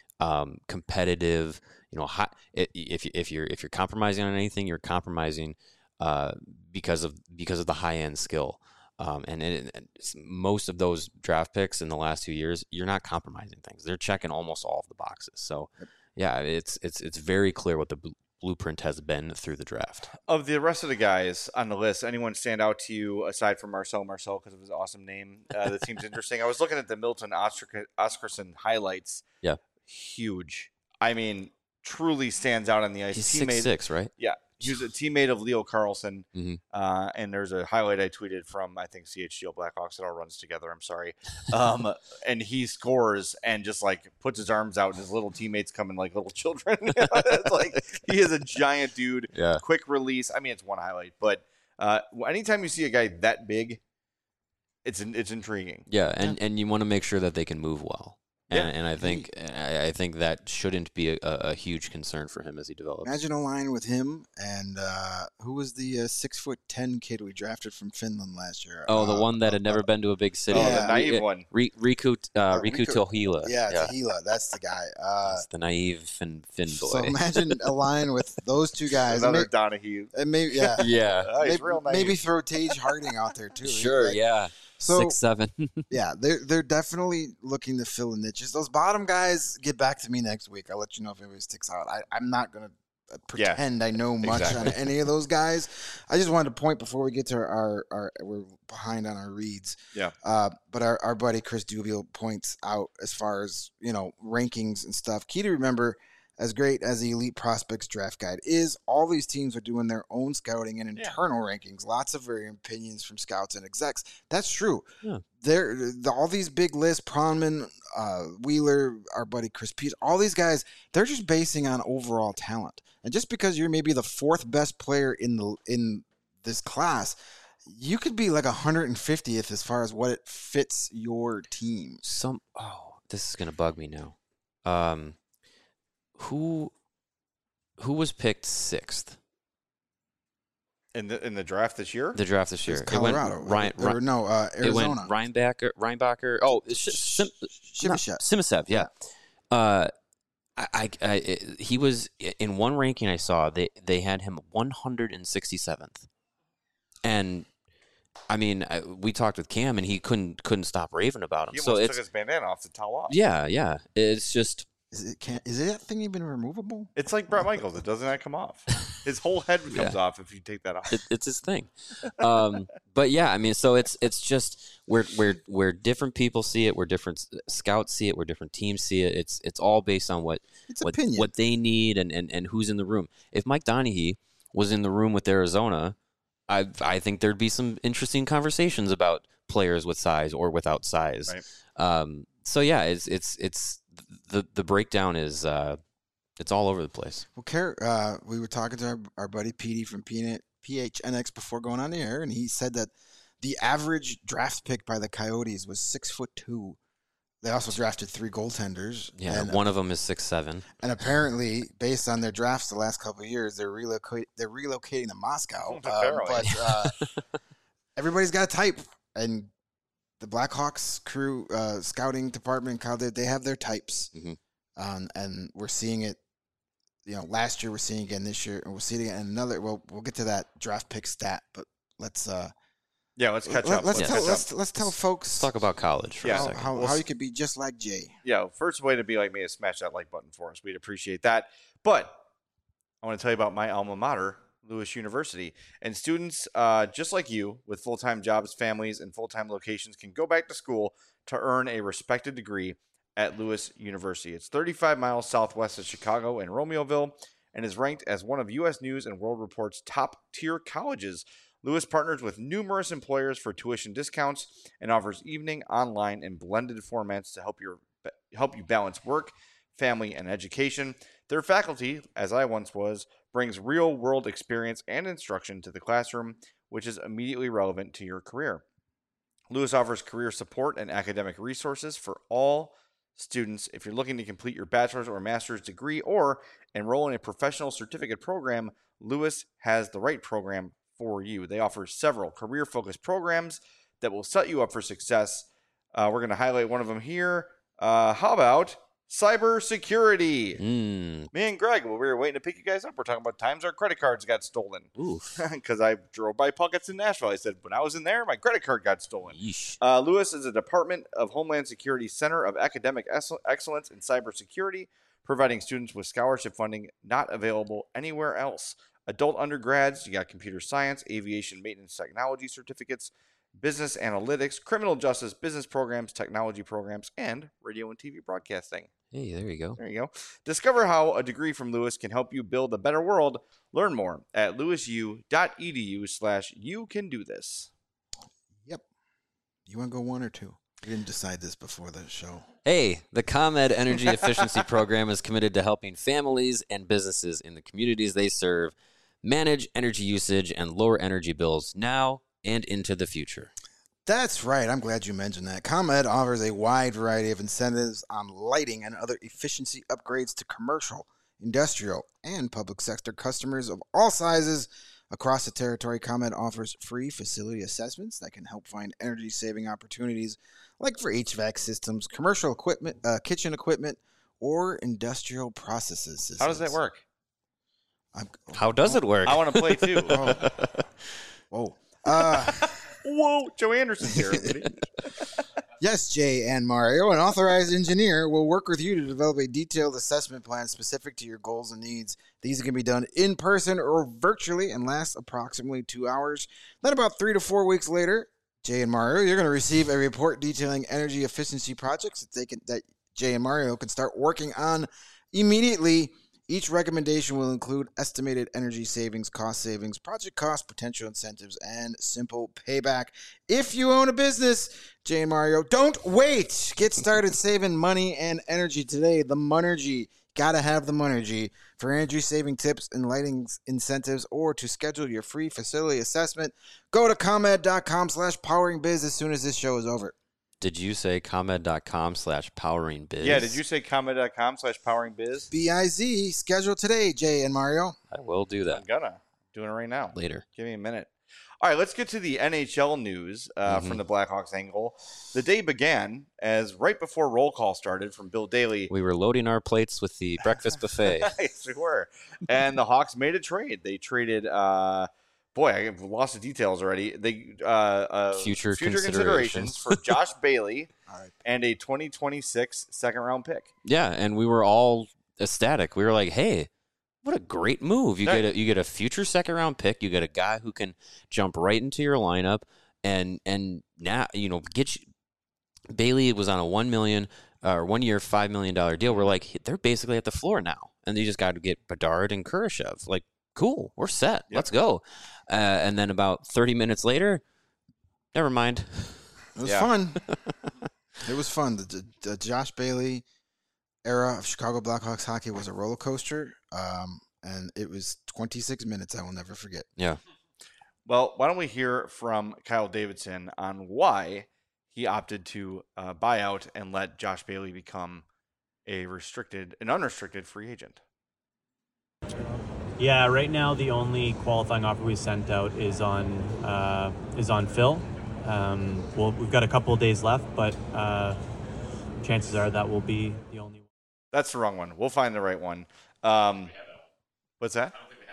Um, competitive. You know, high, if you, if you're if you're compromising on anything, you're compromising uh, because of because of the high end skill. Um, and, it, and most of those draft picks in the last two years, you're not compromising things. They're checking almost all of the boxes. So, yeah, it's it's it's very clear what the bl- blueprint has been through the draft. Of the rest of the guys on the list, anyone stand out to you aside from Marcel Marcel because of his awesome name? Uh, that seems interesting. I was looking at the Milton Oskar- Oscarson highlights. Yeah, huge. I mean, truly stands out on the ice. He's teammate, six six, right? Yeah, he was a teammate of Leo Carlson. Mm-hmm. Uh, and there's a highlight I tweeted from I think C H G O Blackhawks. It all runs together. I'm sorry. Um, and he scores and just like puts his arms out, and his little teammates come in like little children. It's like he is a giant dude. Yeah. Quick release. I mean, it's one highlight, but uh, anytime you see a guy that big, it's it's intriguing. Yeah, and, and you want to make sure that they can move well. And, Yeah. and I think I, I think that shouldn't be a, a huge concern for him as he develops. Imagine a line with him and uh, who was the uh, six foot ten kid we drafted from Finland last year? Oh, the uh, one that had never been to a big city. Oh, Yeah. the naive Re- one. Re- Riku uh, Uh, Riku Riku- Tohila. Yeah, Tahila, that's the guy. Uh, That's the naive Finn, Finn boy. so imagine a line with those two guys. Another Maybe, Donahue. maybe, yeah, yeah, Oh, he's maybe, real naive. maybe throw Tage Harding out there too. sure, Like, yeah. So- Six seven. Yeah, they're they're definitely looking to fill the niches. Those bottom guys, get back to me next week. I'll let you know if anybody sticks out. I, I'm not gonna Yeah, pretend I know much exactly. on any of those guys. I just wanted to point before we get to our, our we're behind on our reads. Yeah. Uh, but our, our buddy Chris Dubiel points out as far as, you know, rankings and stuff. Key to remember, as great as the Elite Prospects Draft Guide is, all these teams are doing their own scouting and Yeah. internal rankings. Lots of varying opinions from scouts and execs. That's true. Yeah. They're, the, all these big lists, Pronman, uh, Wheeler, our buddy Chris Pete, all these guys, they're just basing on overall talent. And just because you're maybe the fourth best player in the in this class, you could be like one hundred fiftieth as far as what it fits your team. Some. Oh, this is gonna bug me now. Um, who, who was picked sixth? In the in the draft this year. The draft this year. It's Colorado. It went Ryan. or, Ryan no, uh, it Arizona. went Reinbacher. Reinbacher. Oh, it's Sh- Sim, Shibashev. not- Simasev. Yeah. Uh, I, I, I, it- he was in one ranking I saw. They they had him one hundred sixty-seventh, and I mean, I, we talked with Cam, and he couldn't couldn't stop raving about him. He So almost it's took his bandana off to towel off. yeah, yeah. It's just Is it can is that thing even removable? It's like Brett Michaels. It doesn't that come off. His whole head comes Yeah. off if you take that off. it, it's his thing. Um, but yeah, I mean, so it's it's just where where where different people see it, where different s- scouts see it, where different teams see it. It's it's all based on what It's what opinion. what they need and, and and who's in the room. If Mike Donaghy was in the room with Arizona, I I think there'd be some interesting conversations about players with size or without size. Right. Um, so yeah, it's it's it's the the breakdown is uh, it's all over the place. Well, Car- uh, we were talking to our, our buddy Petey from P H N X before going on the air, and he said that the average draft pick by the Coyotes was six foot two. They also drafted three goaltenders. Yeah, and, one of them is six seven. And apparently, based on their drafts the last couple of years, they're relocate they're relocating to Moscow. Um, but uh, everybody's got a type, and the Blackhawks crew uh, scouting department, they have their types, mm-hmm. um, and we're seeing it. You know, last year we're seeing it again this year, and we'll see it again in another. Well, we'll get to that draft pick stat, but let's. Uh, Yeah, let's catch let, up. Let's, Let's, tell, catch let's, up. let's tell folks. Let's talk about college for Yeah. a how, second. how, how you could be just like Jay. Yeah, first way to be like me is smash that like button for us. We'd appreciate that. But I want to tell you about my alma mater, Lewis University. And students uh, just like you with full-time jobs, families, and full-time locations can go back to school to earn a respected degree at Lewis University. It's thirty-five miles southwest of Chicago in Romeoville and is ranked as one of U S News and World Report's top-tier colleges. Lewis partners with numerous employers for tuition discounts and offers evening, online, and blended formats to help your help you balance work, family, and education. Their faculty, as I once was, brings real-world experience and instruction to the classroom, which is immediately relevant to your career. Lewis offers career support and academic resources for all students. If you're looking to complete your bachelor's or master's degree or enroll in a professional certificate program, Lewis has the right program for you. They offer several career-focused programs that will set you up for success. Uh, we're going to highlight one of them here. Uh, how about cybersecurity? Mm. Me and Greg, while we were waiting to pick you guys up, we're talking about times our credit cards got stolen. Oof. Because I drove by Puckett's in Nashville. I said, when I was in there, my credit card got stolen. Yeesh. Uh, Lewis is a Department of Homeland Security Center of Academic Excellence in Cybersecurity, providing students with scholarship funding not available anywhere else. Adult undergrads, you got computer science, aviation maintenance technology certificates, business analytics, criminal justice, business programs, technology programs, and radio and T V broadcasting. Hey, there you go. There you go. Discover how a degree from Lewis can help you build a better world. Learn more at lewisu.edu slash you can do this. Yep. You want to go one or two? We didn't decide this before the show. Hey, the ComEd Energy Efficiency Program is committed to helping families and businesses in the communities they serve manage energy usage and lower energy bills now and into the future. That's right. I'm glad you mentioned that. ComEd offers a wide variety of incentives on lighting and other efficiency upgrades to commercial, industrial, and public sector customers of all sizes across the territory. ComEd offers free facility assessments that can help find energy-saving opportunities like for H V A C systems, commercial equipment, uh, kitchen equipment, or industrial processes systems. How does that work? I'm, How does it work? I want to play too. Oh. Whoa. Uh, Whoa, Joe Anderson's here. everybody. yes, Jay and Mario, an authorized engineer will work with you to develop a detailed assessment plan specific to your goals and needs. These can be done in person or virtually and last approximately two hours. Then about three to four weeks later, Jay and Mario, you're going to receive a report detailing energy efficiency projects that they can that Jay and Mario can start working on immediately. Each recommendation will include estimated energy savings, cost savings, project costs, potential incentives, and simple payback. If you own a business, Jay and Mario, don't wait. Get started saving money and energy today. The Monergy. Gotta have the Monergy. For energy saving tips and lighting incentives or to schedule your free facility assessment, go to ComEd.com slash powering biz as soon as this show is over. Did you say ComEd.com slash powering biz? Yeah, did you say ComEd.com slash powering biz? B I Z. Schedule today, Jay and Mario. I will do I'm that gonna. Doing it right now. later. Give me a minute. All right, let's get to the N H L news uh, Mhm. from the Blackhawks angle. The day began as right before roll call started from Bill Daly. We were loading our plates with the breakfast buffet. Yes, we were. And the Hawks made a trade. They traded, uh, boy, I've lost the details already. They uh, uh, Future considerations considerations. for Josh Bailey All right. and a twenty twenty-six second round pick. Yeah, and we were all ecstatic. We were like, "Hey, what a great move! You Right. get a you get a future second round pick. You get a guy who can jump right into your lineup, and and now you know get you, Bailey was on a one million uh, or one year five million dollar deal. We're like, they're basically at the floor now, and they just got to get Bedard and Kurashev. Like, cool, we're set. Yep. Let's go. Uh, and then about thirty minutes later, never mind. It was Yeah. fun. It was fun. The, the, the Josh Bailey era of Chicago Blackhawks hockey was a roller coaster, um, and it was twenty-six minutes I will never forget. Yeah. Well, why don't we hear from Kyle Davidson on why he opted to uh, buy out and let Josh Bailey become a restricted, an unrestricted free agent. Yeah, right now the only qualifying offer we sent out is on uh, is on Phil. Um, well, we've got a couple of days left, but uh, chances are that will be the only one. That's the wrong one. We'll find the right one. Um, what's that?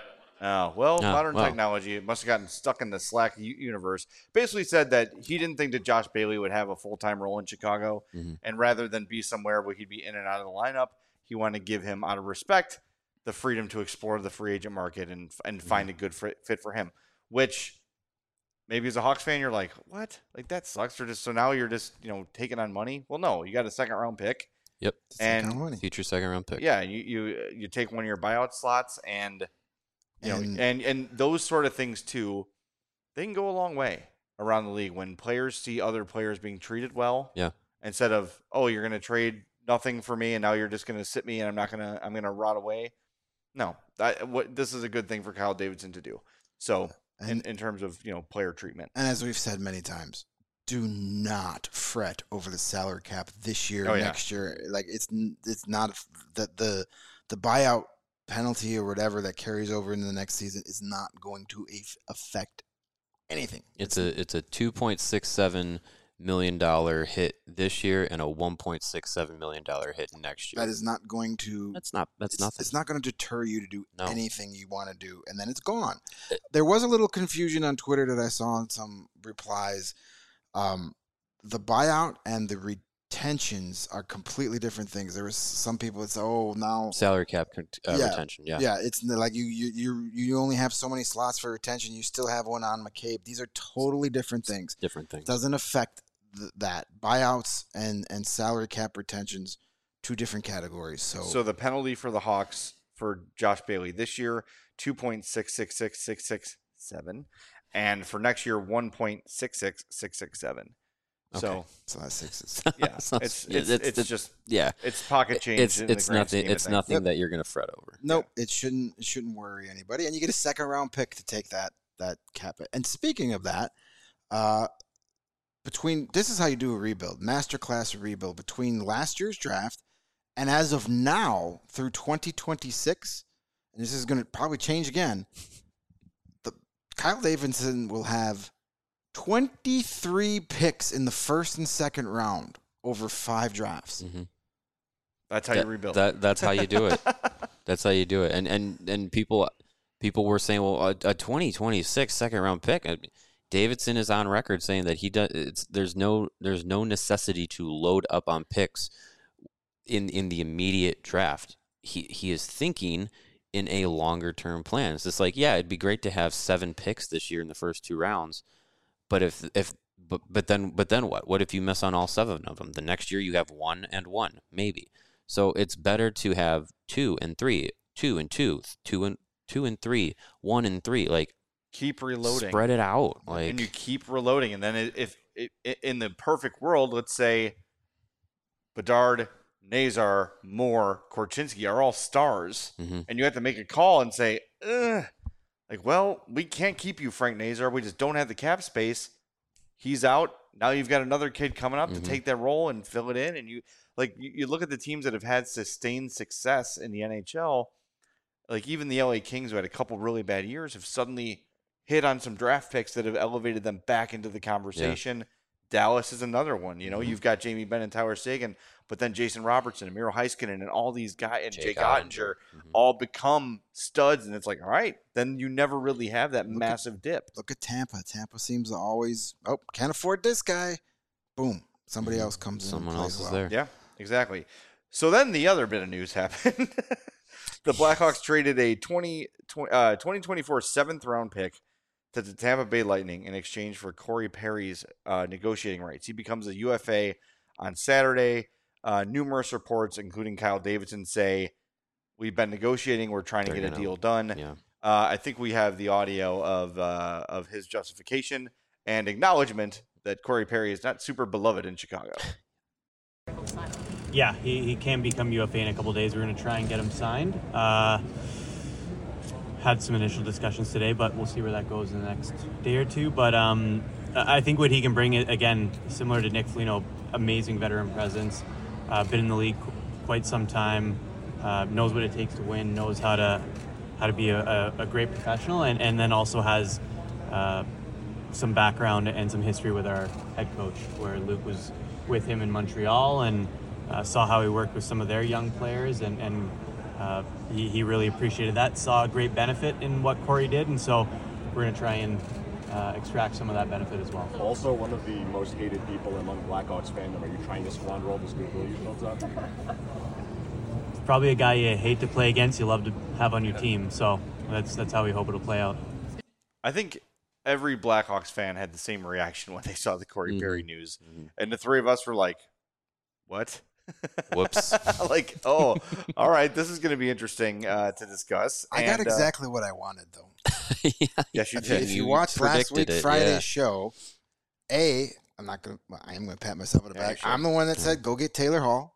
Oh, well, Oh, modern well. technology, it must have gotten stuck in the Slack u- universe. Basically said that he didn't think that Josh Bailey would have a full-time role in Chicago. Mhm. And rather than be somewhere where he'd be in and out of the lineup, he wanted to give him, out of respect, the freedom to explore the free agent market and and find a good fit fit for him. Which maybe as a Hawks fan, you're like, what? Like, that sucks. Or just so now you're just, you know, taking on money? Well, no, you got a second-round pick. Yep. It's that kind And of money. Future second round pick. Yeah, you, you you take one of your buyout slots and you know And- and and those sort of things too, they can go a long way around the league when players see other players being treated well. Yeah. Instead of, oh, you're gonna trade nothing for me and now you're just gonna sit me and I'm not gonna I'm gonna rot away. No. That what this is a good thing for Kyle Davidson to do. So in, And, in terms of, you know, player treatment. and as we've said many times, do not fret over the salary cap this year, Oh, yeah. next year. Like it's n- it's not the the the buyout penalty or whatever that carries over into the next season is not going to af- affect anything. It's a it's a two point six seven million dollar hit this year and a one point six seven million dollar hit next year. That is not going to. That's not that's it's, nothing. It's not going to deter you to do No. anything you want to do, and then it's gone. It- There was a little confusion on Twitter that I saw in some replies. Um, the buyout and the retentions are completely different things. There was some people that say, "Oh, now Salary cap con- uh, Yeah, retention. Yeah. yeah, it's n- like you you you you only have so many slots for retention. You still have one on McCabe. These are totally different things. Different thing. Doesn't affect th- that buyouts and and salary cap retentions, two different categories. So, So the penalty for the Hawks for Josh Bailey this year, two point six six six six six seven, and for next year, one point six six six six seven. So Okay. so that's sixes. yeah, So it's yeah, it's, it's- it's it's- just yeah. it's pocket change. It's in the it's grand nothing. scheme of It's things. nothing Yep. that you're gonna fret over. Nope, it shouldn't it shouldn't worry anybody. And you get a second round pick to take that that cap. And speaking of that, uh, between this is how you do a rebuild, masterclass rebuild between last year's draft and as of now through twenty twenty-six, and this is going to probably change again. The Kyle Davidson will have twenty-three picks in the first and second round over five drafts. Mhm. That's how That- you rebuild. That that's how you do it. That's how you do it. And and and people people were saying, well, a, a twenty twenty-six second round pick. I mean, Davidson is on record saying that he does. It's there's no there's no necessity to load up on picks in in the immediate draft. He he is thinking in a longer term plan. It's just like, yeah, it'd be great to have seven picks this year in the first two rounds, but if if but but then but then what? What if you miss on all seven of them? The next year you have one and one maybe. So it's better to have two and three, two and two, two and two and three, one and three. Like keep reloading. spread it out. Like and you keep reloading. And then it- if it, it, in the perfect world, let's say Bedard, Nazar, Moore, Korchinski are all stars, Mhm. and you have to make a call and say, Ugh. like, well, we can't keep you, Frank Nazar. We just don't have the cap space. He's out. Now you've got another kid coming up Mhm. to take that role and fill it in. And you like you, you look at the teams that have had sustained success in the N H L, like even the L A Kings, who had a couple really bad years, have suddenly hit on some draft picks that have elevated them back into the conversation. Dallas is another one. You know, Mhm. you've got Jamie Benn and Tyler Seguin, but then Jason Robertson and Miro Heiskanen and all these guys and Jake, Jake Ottinger Mhm. all become studs. And it's like, all right, then you never really have that Look at- massive dip. Look at Tampa. Tampa seems to always, oh, can't afford this guy. Boom. Somebody Mhm. else comes in. Someone and else plays is well. there. Yeah, exactly. So then the other bit of news happened. The Blackhawks traded a twenty, uh, twenty twenty-four seventh round pick to the Tampa Bay Lightning in exchange for Corey Perry's uh, negotiating rights. He becomes a U F A on Saturday. Uh, numerous reports, including Kyle Davidson, say we've been negotiating. We're trying to They're get a gonna- deal done. Yeah. Uh, I think we have the audio of uh, of his justification and acknowledgement that Corey Perry is not super beloved in Chicago. Yeah, he, he can become U F A in a couple of days. We're going to try and get him signed. Uh, had some initial discussions today, but we'll see where that goes in the next day or two. But um, I think what he can bring, again, similar to Nick Foligno, amazing veteran presence, uh, been in the league qu- quite some time, uh, knows what it takes to win, knows how to how to be a, a, a great professional, and, and then also has uh, some background and some history with our head coach, where Luke was with him in Montreal and uh, saw how he worked with some of their young players, and, and uh, he, he really appreciated that, saw a great benefit in what Corey did, and so we're going to try and uh, extract some of that benefit as well. Also, one of the most hated people among Blackhawks fandom. Are you trying to squander all this goodwill you built up? Probably a guy you hate to play against, you love to have on your team, so that's that's how we hope it'll play out. I think every Blackhawks fan had the same reaction when they saw the Corey mm-hmm. Perry news. Mm-hmm. And the three of us were like, what? Whoops. Like, oh, all right, this is going to be interesting uh, to discuss. I and, got exactly uh, what I wanted, though. yeah, yes, you if, did. If you, you watched last week it, Friday's yeah. show, A, I'm not going to, well, I am going to pat myself on the yeah, back. sure. I'm the one that said, go get Taylor Hall.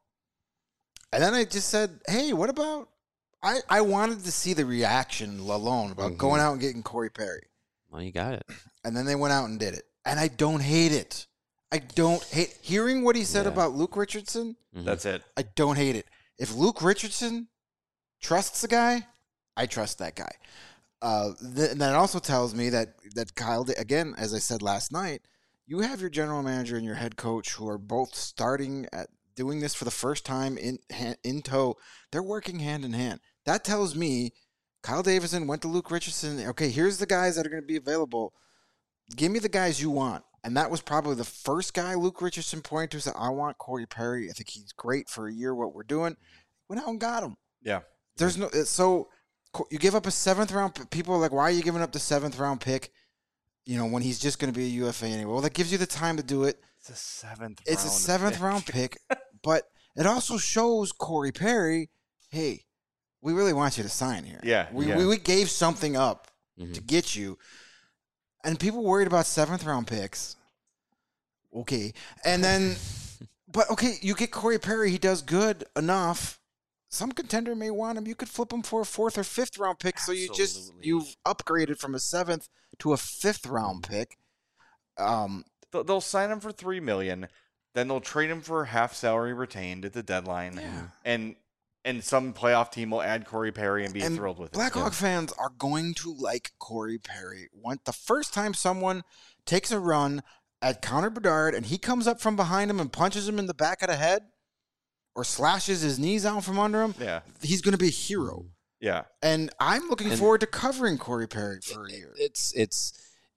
And then I just said, hey, what about, I, I wanted to see the reaction alone about mm-hmm. going out and getting Corey Perry. Well, you got it. And then they went out and did it. And I don't hate it. I don't hate hearing what he said yeah. about Luke Richardson. Mm-hmm. That's it. I don't hate it. If Luke Richardson trusts the guy, I trust that guy. Uh, th- and that also tells me that, that Kyle, again, as I said last night, you have your general manager and your head coach who are both starting at doing this for the first time in in tow. They're working hand in hand. That tells me Kyle Davidson went to Luke Richardson. Okay, here's the guys that are going to be available. Give me the guys you want. And that was probably the first guy Luke Richardson pointed to. Said, I want Corey Perry. I think he's great for a year, what we're doing. Went out and got him. Yeah. There's no, so you give up a seventh round. People are like, why are you giving up the seventh round pick? You know, when he's just going to be a U F A anyway. Well, that gives you the time to do it. It's a seventh It's round a seventh pick. round pick. But it also shows Corey Perry, hey, we really want you to sign here. Yeah. We, yeah. we, we gave something up mm-hmm. to get you. And people worried about seventh round picks. Okay. And then, but okay, you get Corey Perry. He does good enough. Some contender may want him. You could flip him for a fourth or fifth round pick. Absolutely. So you just, you've upgraded from a seventh to a fifth round pick. Um, They'll sign him for three million dollars. Then they'll trade him for half salary retained at the deadline. Yeah. And and some playoff team will add Corey Perry and be and thrilled with it. Blackhawk yeah. fans are going to like Corey Perry. When the first time someone takes a run at Connor Bedard and he comes up from behind him and punches him in the back of the head or slashes his knees out from under him, yeah. he's going to be a hero. Yeah. And I'm looking and forward to covering Corey Perry for a year. It's it's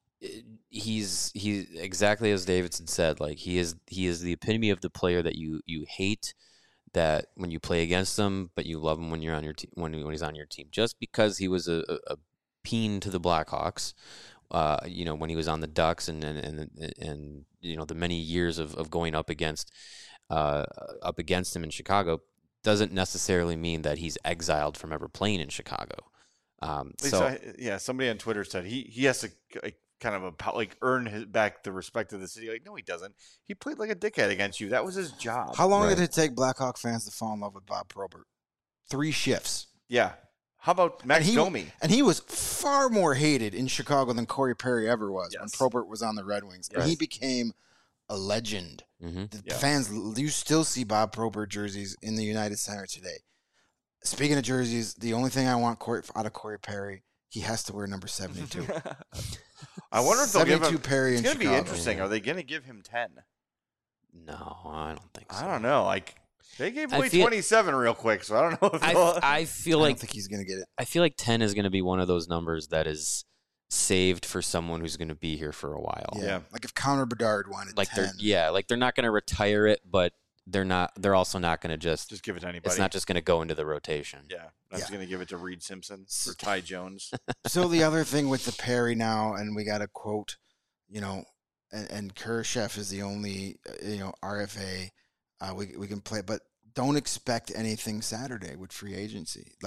he's he exactly as Davidson said. Like he is he is the epitome of the player that you you hate that when you play against him, but you love him when you're on your team when when he's on your team. Just because he was a, a, a peen to the Blackhawks, uh, you know, when he was on the Ducks and and and, and you know the many years of, of going up against uh, up against him in Chicago, doesn't necessarily mean that he's exiled from ever playing in Chicago. Um, so I, yeah, somebody on Twitter said he he has to like, kind of a, like earn his, back the respect of the city. Like, no, he doesn't. He played like a dickhead against you. That was his job. How long right. did it take Blackhawk fans to fall in love with Bob Probert? Three shifts. Yeah. How about Max and he, Domi? And he was far more hated in Chicago than Corey Perry ever was yes. when Probert was on the Red Wings. Yes. And he became a legend. Mm-hmm. The yeah. fans, you still see Bob Probert jerseys in the United Center today. Speaking of jerseys, the only thing I want Corey, out of Corey Perry, he has to wear number seventy-two. I wonder if they'll give him. Perry it's in going to be Chicago. interesting. Are they going to give him ten? No, I don't think so. I don't know. Like they gave away feel, twenty-seven real quick, so I don't know if I, I feel I like don't think he's going to get it. I feel like ten is going to be one of those numbers that is saved for someone who's going to be here for a while. Yeah, yeah. like if Connor Bedard wanted like ten. they're yeah, like they're not going to retire it, but they're not. They're also not going to just just give it to anybody. It's not just going to go into the rotation. Yeah, I'm just Yeah. going to give it to Reed Simpson or Ty Jones. So the other thing with the Perry now, and we got a quote, you know, and, and Kurashev is the only, uh, you know, R F A uh, we we can play, but don't expect anything Saturday with free agency. Like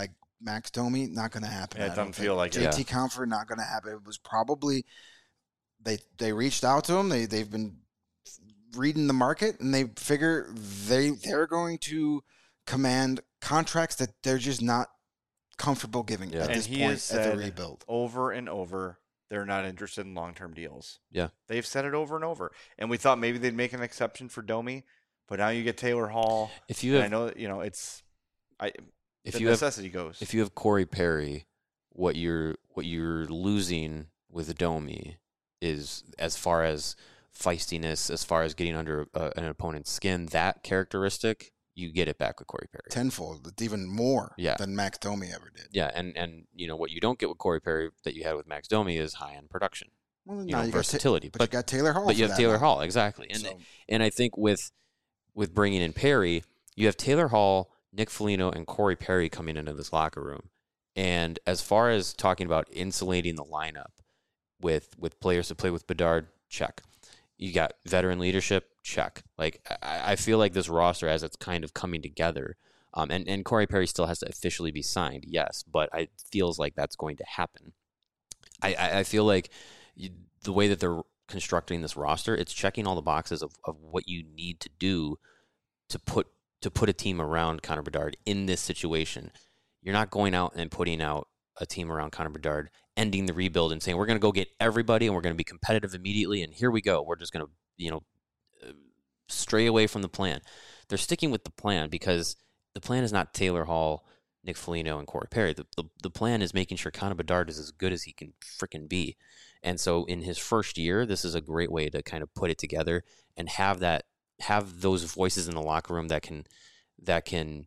Max Domi, not going to happen. Yeah, it I don't doesn't feel think. like it. J T Comfort, not going to happen. It was probably they they reached out to him. They they've been reading the market, and they figure they they're going to command contracts that they're just not comfortable giving Yeah. at And this he point has at the said rebuild. over and over they're not interested in long-term deals. Yeah. They've said it over and over. And we thought maybe they'd make an exception for Domi, but now you get Taylor Hall. If you and have, I know that, you know, it's I if the you have, necessity goes. if you have Corey Perry, what you're what you're losing with Domi is as far as feistiness, as far as getting under uh, an opponent's skin, that characteristic, you get it back with Corey Perry. Tenfold. It's even more Yeah. than Max Domi ever did. Yeah, and, and you know what you don't get with Corey Perry that you had with Max Domi is high end production, Well, you now know, you got Ta- versatility. but, you got Taylor Hall. but you for have that Taylor now. Hall, exactly. And So- and I think with with bringing in Perry, you have Taylor Hall, Nick Foligno, and Corey Perry coming into this locker room. And as far as talking about insulating the lineup with with players to play with Bedard, check. You got veteran leadership, check. Like I, I feel like this roster, as it's kind of coming together, um, and and Corey Perry still has to officially be signed, yes, but it feels like that's going to happen. I I, I feel like you, the way that they're constructing this roster, it's checking all the boxes of, of what you need to do to put to put a team around Connor Bedard in this situation. You're not going out and putting out a team around Connor Bedard, ending the rebuild and saying we're going to go get everybody and we're going to be competitive immediately and here we go. We're just going to, you know, uh, stray away from the plan. They're sticking with the plan because the plan is not Taylor Hall, Nick Foligno, and Corey Perry. The, the, the plan is making sure Connor Bedard is as good as he can freaking be. And so in his first year, this is a great way to kind of put it together and have that, have those voices in the locker room that can, that can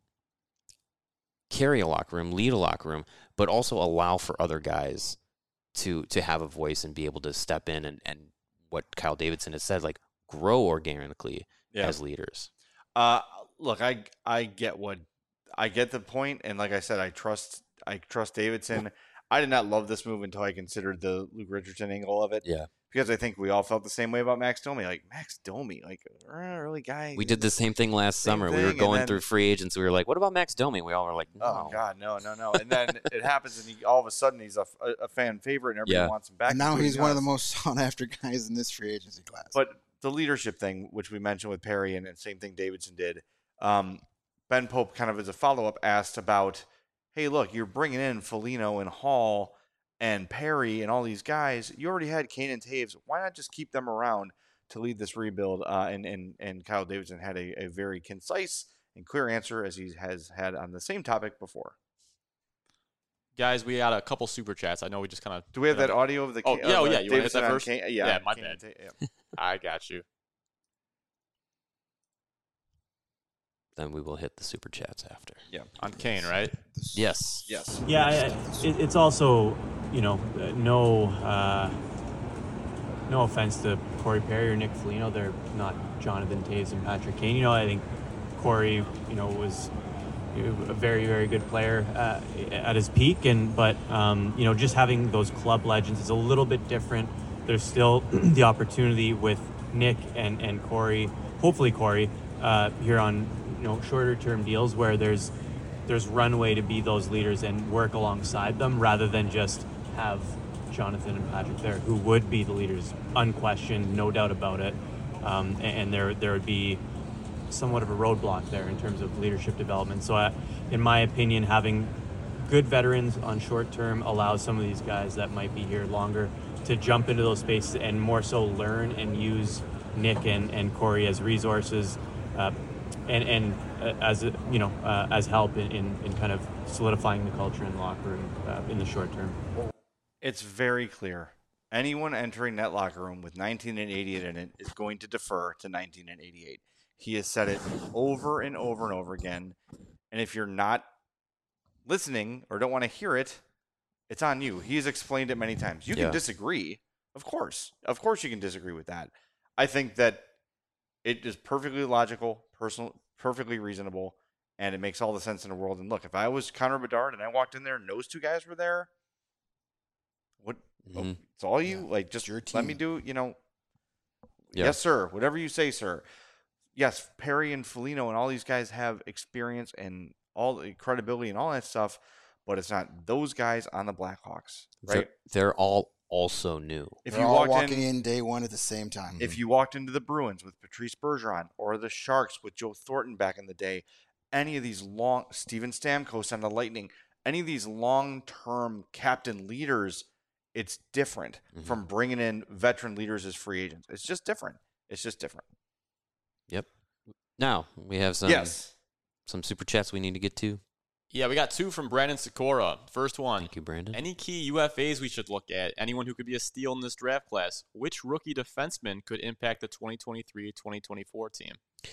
carry a locker room, lead a locker room, but also allow for other guys to to have a voice and be able to step in and, and what Kyle Davidson has said, like grow organically Yeah. as leaders. Uh, look, I I get what I get the point, and like I said, I trust I trust Davidson. I did not love this move until I considered the Luke Richardson angle of it. Yeah. Because I think we all felt the same way about Max Domi. Like Max Domi, like really guy. We did the same thing last Same summer. We were thing, and going then- through free agents. We were like, what about Max Domi? We all were like, no. Oh God, no, no, no. And then it happens, and he, all of a sudden he's a, a fan favorite, and everybody Yeah. wants him back. And now including he's one of us. the most sought after guys in this free agency class. But the leadership thing, which we mentioned with Perry, and, and same thing Davidson did. Um, Ben Pope, kind of as a follow up, asked about, hey, look, you're bringing in Foligno and Hall and Perry and all these guys. You already had Kane and Taves. Why not just keep them around to lead this rebuild? Uh, and and and Kyle Davidson had a, a very concise and clear answer, as he has had on the same topic before. Guys, we got a couple super chats. I know we just kind of. Do we have that audio of the? Oh, Kane- yeah, oh, of, uh, yeah. You want to hit Davidson that on first? Kane? Yeah, Yeah, my Kane bad. and Ta- yeah. I got you. Then we will hit the super chats after. Yeah. On Kane, right? Yes. Yes. Yeah, I- it, it's also, you know, uh, no uh, no offense to Corey Perry or Nick Foligno. They're not Jonathan Taves and Patrick Kane. You know, I think Corey, you know, was a very, very good player uh, at his peak. And but, um, you know, just having those club legends is a little bit different. There's still the opportunity with Nick and, and Corey, hopefully Corey, uh, here on, you know, shorter term deals where there's there's runway to be those leaders and work alongside them rather than just have Jonathan and Patrick there who would be the leaders, unquestioned, no doubt about it. Um, and, and there there would be somewhat of a roadblock there in terms of leadership development. So I, in my opinion, having good veterans on short term allows some of these guys that might be here longer to jump into those spaces and more so learn and use Nick and, and Corey as resources uh, and, and uh, as, a, you know, uh, as help in, in, in kind of solidifying the culture in the locker room uh, in the short term. It's very clear. Anyone entering that locker room with nineteen and eighty-eight in it is going to defer to nineteen and eighty-eight. He has said it over and over and over again. And if you're not listening or don't want to hear it, it's on you. He's explained it many times. You Yeah. can disagree. Of course. Of course you can disagree with that. I think that it is perfectly logical, personal, perfectly reasonable, and it makes all the sense in the world. And look, if I was Connor Bedard and I walked in there and those two guys were there, what? Oh, Mhm. it's all you? Yeah, like, just it's your let me team. do, you know, Yeah. yes, sir. Whatever you say, sir. Yes, Perry and Foligno and all these guys have experience and all the credibility and all that stuff. but it's not those guys on the Blackhawks, right? They're, they're all also new. If They're you all walked walking in, in day one at the same time. if you walked into the Bruins with Patrice Bergeron or the Sharks with Joe Thornton back in the day, any of these long Steven Stamkos on the Lightning, any of these long-term captain leaders, it's different Mhm. from bringing in veteran leaders as free agents. It's just different. It's just different. Yep. Now we have some yes. some super chats we need to get to. Yeah, we got two from Brandon Sikora. First one. Thank you, Brandon. Any key U F As we should look at? Anyone who could be a steal in this draft class? Which rookie defenseman could impact the twenty twenty-three twenty twenty-four team?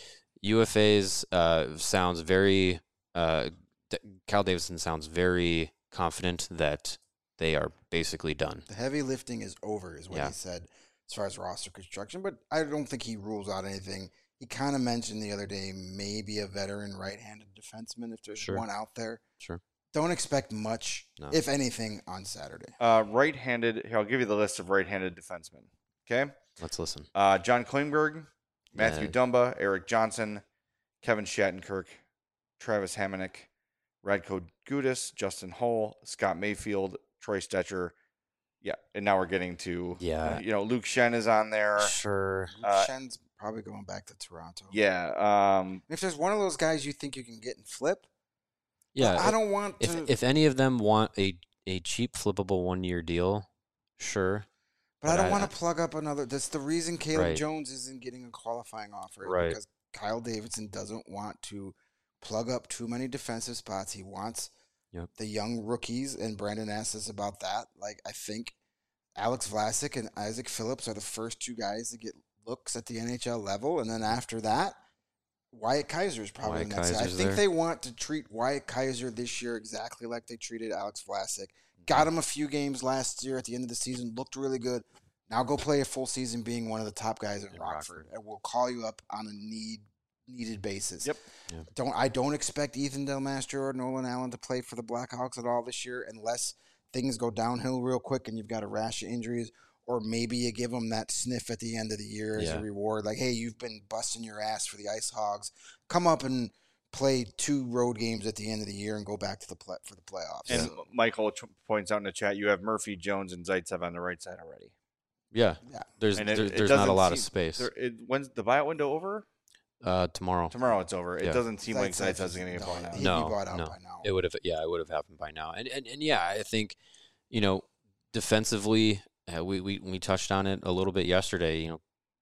U F As uh, sounds very. Uh, D- Kyle Davidson sounds very confident that they are basically done. The heavy lifting is over, is what Yeah. he said, as far as roster construction. But I don't think he rules out anything. He kind of mentioned the other day maybe a veteran right-handed defenseman if there's Sure. one out there. Sure. Don't expect much, No. if anything, on Saturday. Uh, right-handed. Here, I'll give you the list of right-handed defensemen. Okay. Let's listen. Uh, John Klingberg, Matthew Yeah. Dumba, Eric Johnson, Kevin Shattenkirk, Travis Hamonic, Radko Gudas, Justin Hull, Scott Mayfield, Troy Stetcher. Yeah, and now we're getting to Yeah. uh, you know, Luke Shen is on there. Sure. Luke uh, Shen's probably going back to Toronto. Yeah. Um, If there's one of those guys you think you can get and flip, Yeah. I don't want If to. if any of them want a a cheap flippable one year deal, sure. but I but don't I- want to plug up another. That's the reason Caleb Right. Jones isn't getting a qualifying offer. is Right. Because Kyle Davidson doesn't want to plug up too many defensive spots. He wants Yep. the young rookies, and Brandon asked us about that. Like, I think Alex Vlasic and Isaac Phillips are the first two guys to get looks at the N H L level, and then after that, Wyatt Kaiser is probably Wyatt the next guy. I Kaiser's think there. they want to treat Wyatt Kaiser this year exactly like they treated Alex Vlasic. Got him a few games last year at the end of the season, looked really good. Now go play a full season being one of the top guys in In Rockford, Rockford. and we'll call you up on a need needed basis. Yep. Yeah. Don't I don't expect Ethan Del Mastro or Nolan Allen to play for the Blackhawks at all this year unless things go downhill real quick and you've got a rash of injuries, or maybe you give them that sniff at the end of the year as Yeah. a reward. Like, hey, you've been busting your ass for the Ice Hogs. Come up and play two road games at the end of the year and go back to the play for the playoffs. and Michael t- points out in the chat, you have Murphy, Jones, and Zaitsev on the right side already. Yeah. Yeah. There's And it- there- it there's not a doesn't lot of seem- space. There, it, when's the buyout window over? Uh, tomorrow. Tomorrow it's over. It Yeah. doesn't seem like Zaitsev Zaitsev's is- going to get no, bought out. he'd be No, bought out no. by now. It would have, yeah, it would have happened by now. And and, and yeah, I think, you know, defensively, uh, we, we we touched on it a little bit yesterday. You know,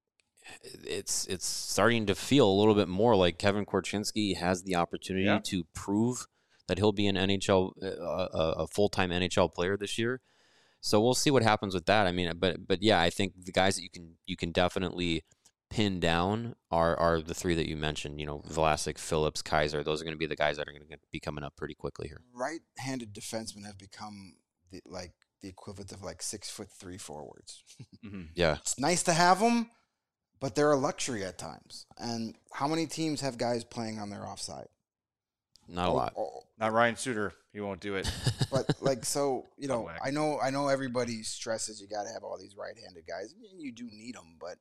it's it's starting to feel a little bit more like Kevin Korchinski has the opportunity Yeah. to prove that he'll be an N H L, uh, a, a full time N H L player this year. So we'll see what happens with that. I mean, but but yeah, I think the guys that you can you can definitely pin down are are the three that you mentioned. You know, Vlasic, Phillips, Kaiser. Those are going to be the guys that are going to be coming up pretty quickly here. Right-handed defensemen have become the, like the equivalent of like six foot three forwards. Mm-hmm. Yeah, It's nice to have them, but they're a luxury at times. And how many teams have guys playing on their offside? not a Oh, lot. oh, Not Ryan Suter. He won't do it. but like, so you know, whack. I know, I know, everybody stresses you got to have all these right-handed guys. And you do need them, but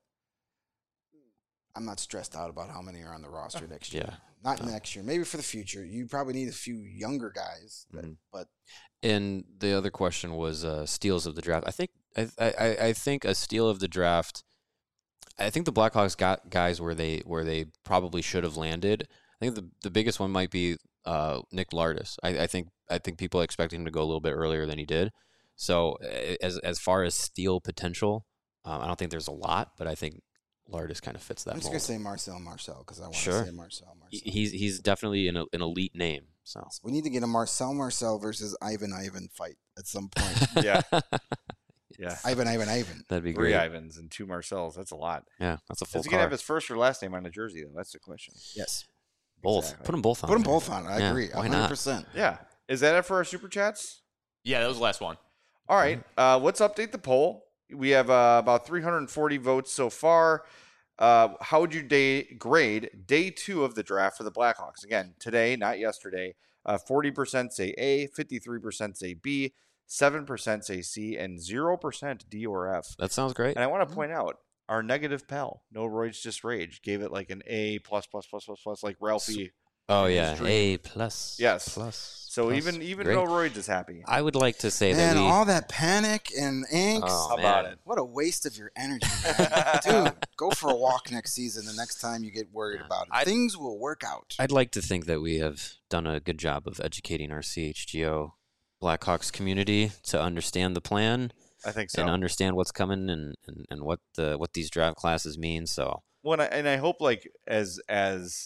I'm not stressed out about how many are on the roster next year. Yeah. Not No. next year. Maybe for the future. You probably need a few younger guys, that, Mhm. but And the other question was uh, steals of the draft. I think I, I I think a steal of the draft. I think the Blackhawks got guys where they where they probably should have landed. I think the the biggest one might be uh, Nick Lardis. I, I think I think people expect him to go a little bit earlier than he did. So uh, as as far as steal potential, um, I don't think there's a lot, but I think Lardis kind of fits that I'm just mold. gonna say Marcel Marcel because I want to Sure. say Marcel Marcel. He- He's he's definitely an an elite name. So We need to get a Marcel Marcel versus Ivan Ivan fight at some point. Yeah. Yeah. Ivan Ivan Ivan. that'd be Three great. Ivans and two Marcels. That's a lot. Yeah, that's a full Is he going to car. have his first or last name on the jersey, though? That's the question. Yes. Both. Exactly. Put them both on. Put them there. both on. I Yeah, agree. why one hundred percent. Yeah. Is that it for our super chats? Yeah, that was the last one. All right. Uh, let's update the poll. We have uh, about three hundred forty votes so far. Uh, how would you day, grade day two of the draft for the Blackhawks? Again, today, not yesterday. Uh, forty percent say A, fifty-three percent say B, seven percent say C, and zero percent D or F. That sounds great. And I want to point out, our negative pal, No Roids Just Rage, gave it like an A plus plus plus plus plus, like Ralphie. Oh in yeah, his dream. A plus. Yes. Plus. So plus. even even Great. Bill Royds is happy. I would like to say Man, that we. all that panic and angst. Oh, How man. about it? What a waste of your energy, man. Dude, go for a walk next season the next time you get worried Yeah. about it. I'd- Things will work out. I'd like to think that we have done a good job of educating our C H G O Blackhawks community to understand the plan I think so. and understand what's coming and, and, and what the what these draft classes mean. So Well, and I, and I hope like as as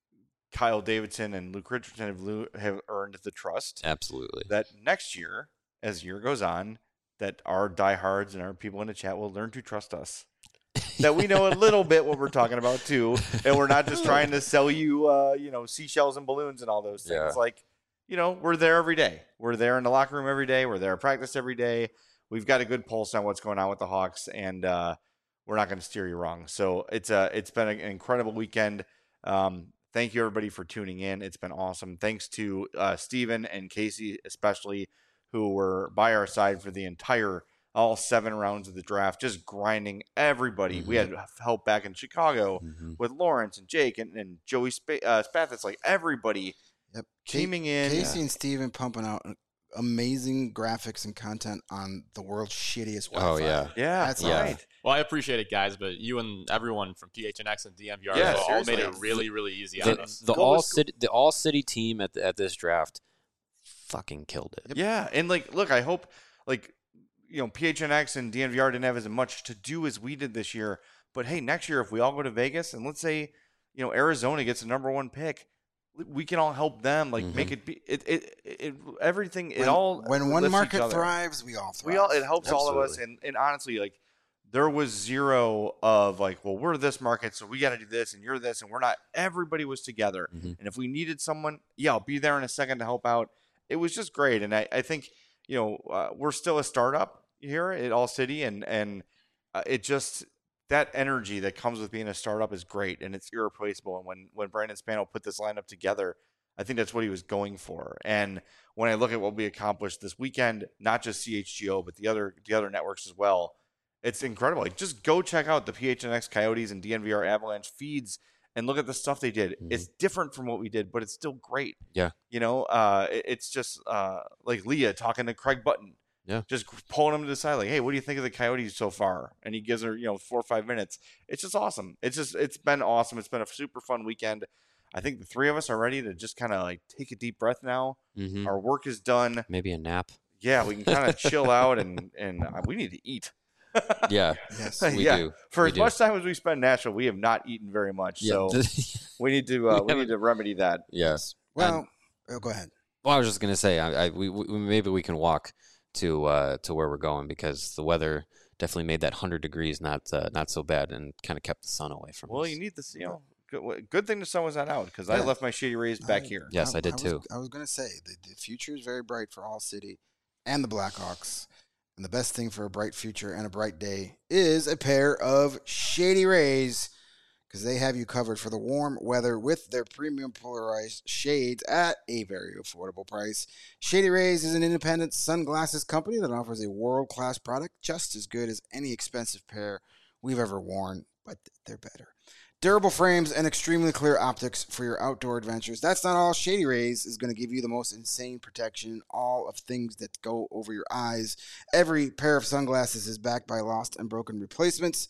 Kyle Davidson and Luke Richardson have lo- have earned the trust absolutely. that next year, as year goes on, that our diehards and our people in the chat will learn to trust us. That we know a little bit what we're talking about too, and we're not just trying to sell you, uh, you know, seashells and balloons and all those things. Yeah. Like, you know, we're there every day. We're there in the locker room every day. We're there at practice every day. We've got a good pulse on what's going on with the Hawks, and uh, we're not going to steer you wrong. So it's a, it's been an incredible weekend. Um, thank you everybody for tuning in. It's been awesome. Thanks to uh, Steven and Casey especially, who were by our side for the entire all seven rounds of the draft, just grinding everybody. Mm-hmm. We had help back in Chicago Mm-hmm. with Lawrence and Jake and, and Joey Sp- uh, Spathis, like everybody Yep. teaming in. Casey and Steven pumping out amazing graphics and content on the world's shittiest Wi-Fi. Oh, yeah. Yeah, That's Yeah. right. Well, I appreciate it, guys, but you and everyone from P H N X and D M V R Yeah, as well all made it seriously. really, really easy on The, us. the Go all with- city the all city team at the, at this draft fucking killed it. Yeah, and like, look, I hope like you know P H N X and D N V R didn't have as much to do as we did this year. But hey, next year if we all go to Vegas and let's say you know Arizona gets the number one pick, we can all help them. Like Mhm. make it be it it, it everything. It When, all when one lifts each market other. thrives, we all thrive. We all it helps all of us. Absolutely. And and honestly, like there was zero of like, well, we're this market, so we got to do this, and you're this, and we're not. Everybody was together. Mhm. And if we needed someone, yeah, I'll be there in a second to help out. It was just great. And I, I think, you know, uh, we're still a startup here at All City. And, and uh, it just, that energy that comes with being a startup is great. And it's irreplaceable. And when, when Brandon Spano put this lineup together, I think that's what he was going for. And when I look at what we accomplished this weekend, not just C H G O, but the other, the other networks as well, it's incredible. Like, just go check out the P H N X Coyotes and D N V R Avalanche feeds and look at the stuff they did. Mhm. It's different from what we did, but it's still great. Yeah. You know, uh, it- it's just uh, like Leah talking to Craig Button. Yeah. Just pulling him to the side, like, hey, what do you think of the Coyotes so far? And he gives her, you know, four or five minutes. It's just awesome. It's just, it's been awesome. It's been a super fun weekend. I think the three of us are ready to just kind of like take a deep breath now. Mm-hmm. Our work is done. Maybe a nap. Yeah, we can kind of chill out and and uh, we need to eat. Yeah, Yes. we yeah. do. For We as do. much time as we spend in Nashville, we have not eaten very much. Yeah. So we need to uh, We we need to remedy that. yes. Well, oh, go ahead. Well, I was just gonna say, I, I we, we maybe we can walk to uh, to where we're going because the weather definitely made that hundred degrees not uh, not so bad and kind of kept the sun away from Well, us. you need this. You know, good, good thing the sun was not out because I Yeah. left my Shady Rays back I- here. Yes, I did was, too. I was going to say the, the future is very bright for All City and the Blackhawks. And the best thing for a bright future and a bright day is a pair of Shady Rays because they have you covered for the warm weather with their premium polarized shades at a very affordable price. Shady Rays is an independent sunglasses company that offers a world-class product just as good as any expensive pair we've ever worn, but they're better. Durable frames and extremely clear optics for your outdoor adventures. That's not all. Shady Rays is going to give you the most insane protection, all of things that go over your eyes. Every pair of sunglasses is backed by lost and broken replacements.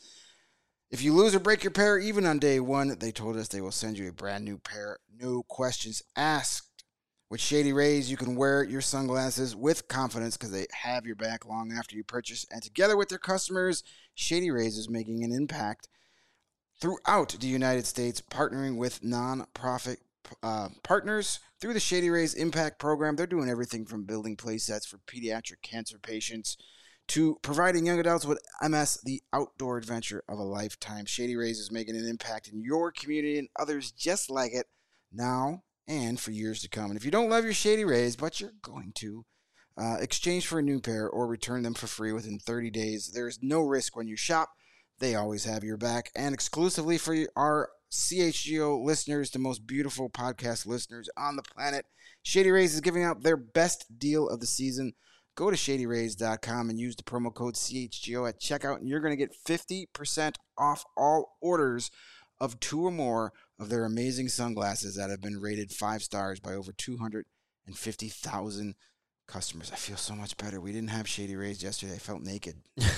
If you lose or break your pair, even on day one, they told us they will send you a brand new pair. No questions asked. With Shady Rays, you can wear your sunglasses with confidence because they have your back long after you purchase. And together with their customers, Shady Rays is making an impact throughout the United States, partnering with non-profit uh, partners through the Shady Rays Impact Program. They're doing everything from building play sets for pediatric cancer patients to providing young adults with M S the outdoor adventure of a lifetime. Shady Rays is making an impact in your community and others just like it now and for years to come. And if you don't love your Shady Rays, but you're going to, uh, exchange for a new pair or return them for free within thirty days. There is no risk when you shop. They always have your back. And exclusively for our C H G O listeners, the most beautiful podcast listeners on the planet, Shady Rays is giving out their best deal of the season. Go to shady rays dot com and use the promo code C H G O at checkout, and you're going to get fifty percent off all orders of two or more of their amazing sunglasses that have been rated five stars by over two hundred fifty thousand customers. I feel so much better. We didn't have Shady Rays yesterday. I felt naked.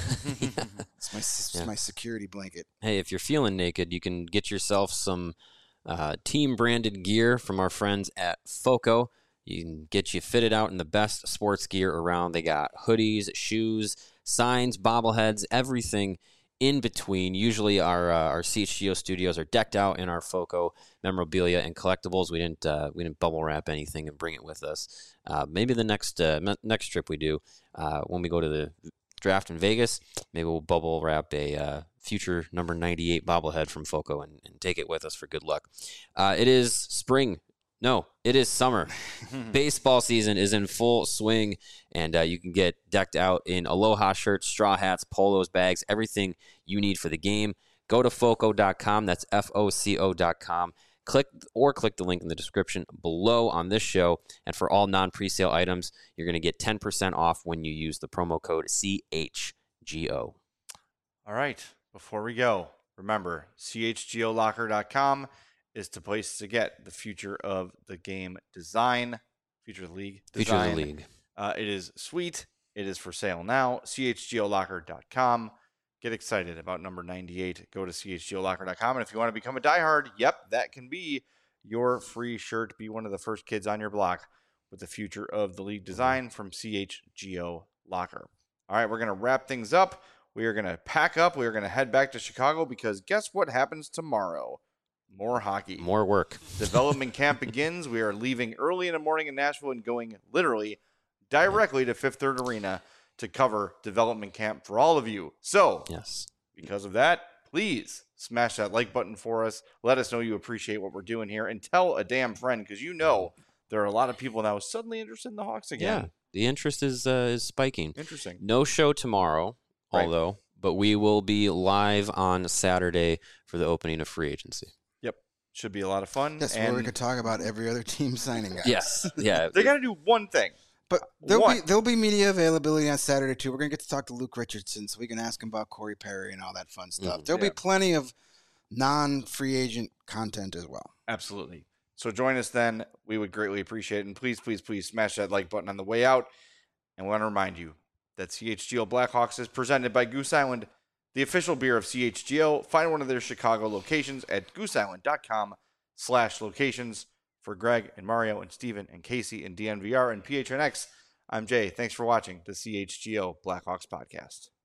It's my it's Yeah. my security blanket. Hey, if you're feeling naked, you can get yourself some uh, team-branded gear from our friends at FOCO. You can get you fitted out in the best sports gear around. They got hoodies, shoes, signs, bobbleheads, everything in between. Usually our uh, our C H G O studios are decked out in our FOCO memorabilia and collectibles. We didn't uh, we didn't bubble wrap anything and bring it with us. Uh, maybe the next uh, me- next trip we do, uh, when we go to the draft in Vegas, maybe we'll bubble wrap a uh, future number ninety-eight bobblehead from FOCO and, and take it with us for good luck. Uh, it is spring. No, it is summer. Baseball season is in full swing, and uh, you can get decked out in Aloha shirts, straw hats, polos, bags, everything you need for the game. Go to foco dot com. That's F O C O dot com. Click or click the link in the description below on this show. And for all non-presale items, you're going to get ten percent off when you use the promo code C H G O. All right. Before we go, remember, C H G O locker dot com is the place to get the future of the game design, future of the league design. Future of the league. Uh, it is sweet. It is for sale now. C H G O locker dot com. Get excited about number ninety-eight. Go to C H G O locker dot com. And if you want to become a diehard, yep, that can be your free shirt. Be one of the first kids on your block with the future of the league design from C H G O Locker. All right, we're going to wrap things up. We are going to pack up. We are going to head back to Chicago because guess what happens tomorrow? More hockey. More work. Development camp begins. We are leaving early in the morning in Nashville and going literally directly to Fifth Third Arena to cover development camp for all of you. So, yes, because of that, please smash that like button for us. Let us know you appreciate what we're doing here and tell a damn friend because you know there are a lot of people now suddenly interested in the Hawks again. Yeah, the interest is uh, is spiking. Interesting. No show tomorrow, Right. although, but we will be live on Saturday for the opening of free agency. Yep. Should be a lot of fun. That's and where we could talk about every other team signing. Guys. Yes. Yeah. They got to do one thing. But there'll One. be there'll be media availability on Saturday too. We're gonna get to talk to Luke Richardson, so we can ask him about Corey Perry and all that fun stuff. Mhm. There'll Yeah. be plenty of non-free agent content as well. Absolutely. So join us then. We would greatly appreciate it. And please, please, please smash that like button on the way out. And we want to remind you that C H G O Blackhawks is presented by Goose Island, the official beer of C H G O. Find one of their Chicago locations at goose island dot com slash locations. For Greg and Mario and Steven and Casey and D N V R and P H N X, I'm Jay. Thanks for watching the C H G O Blackhawks podcast.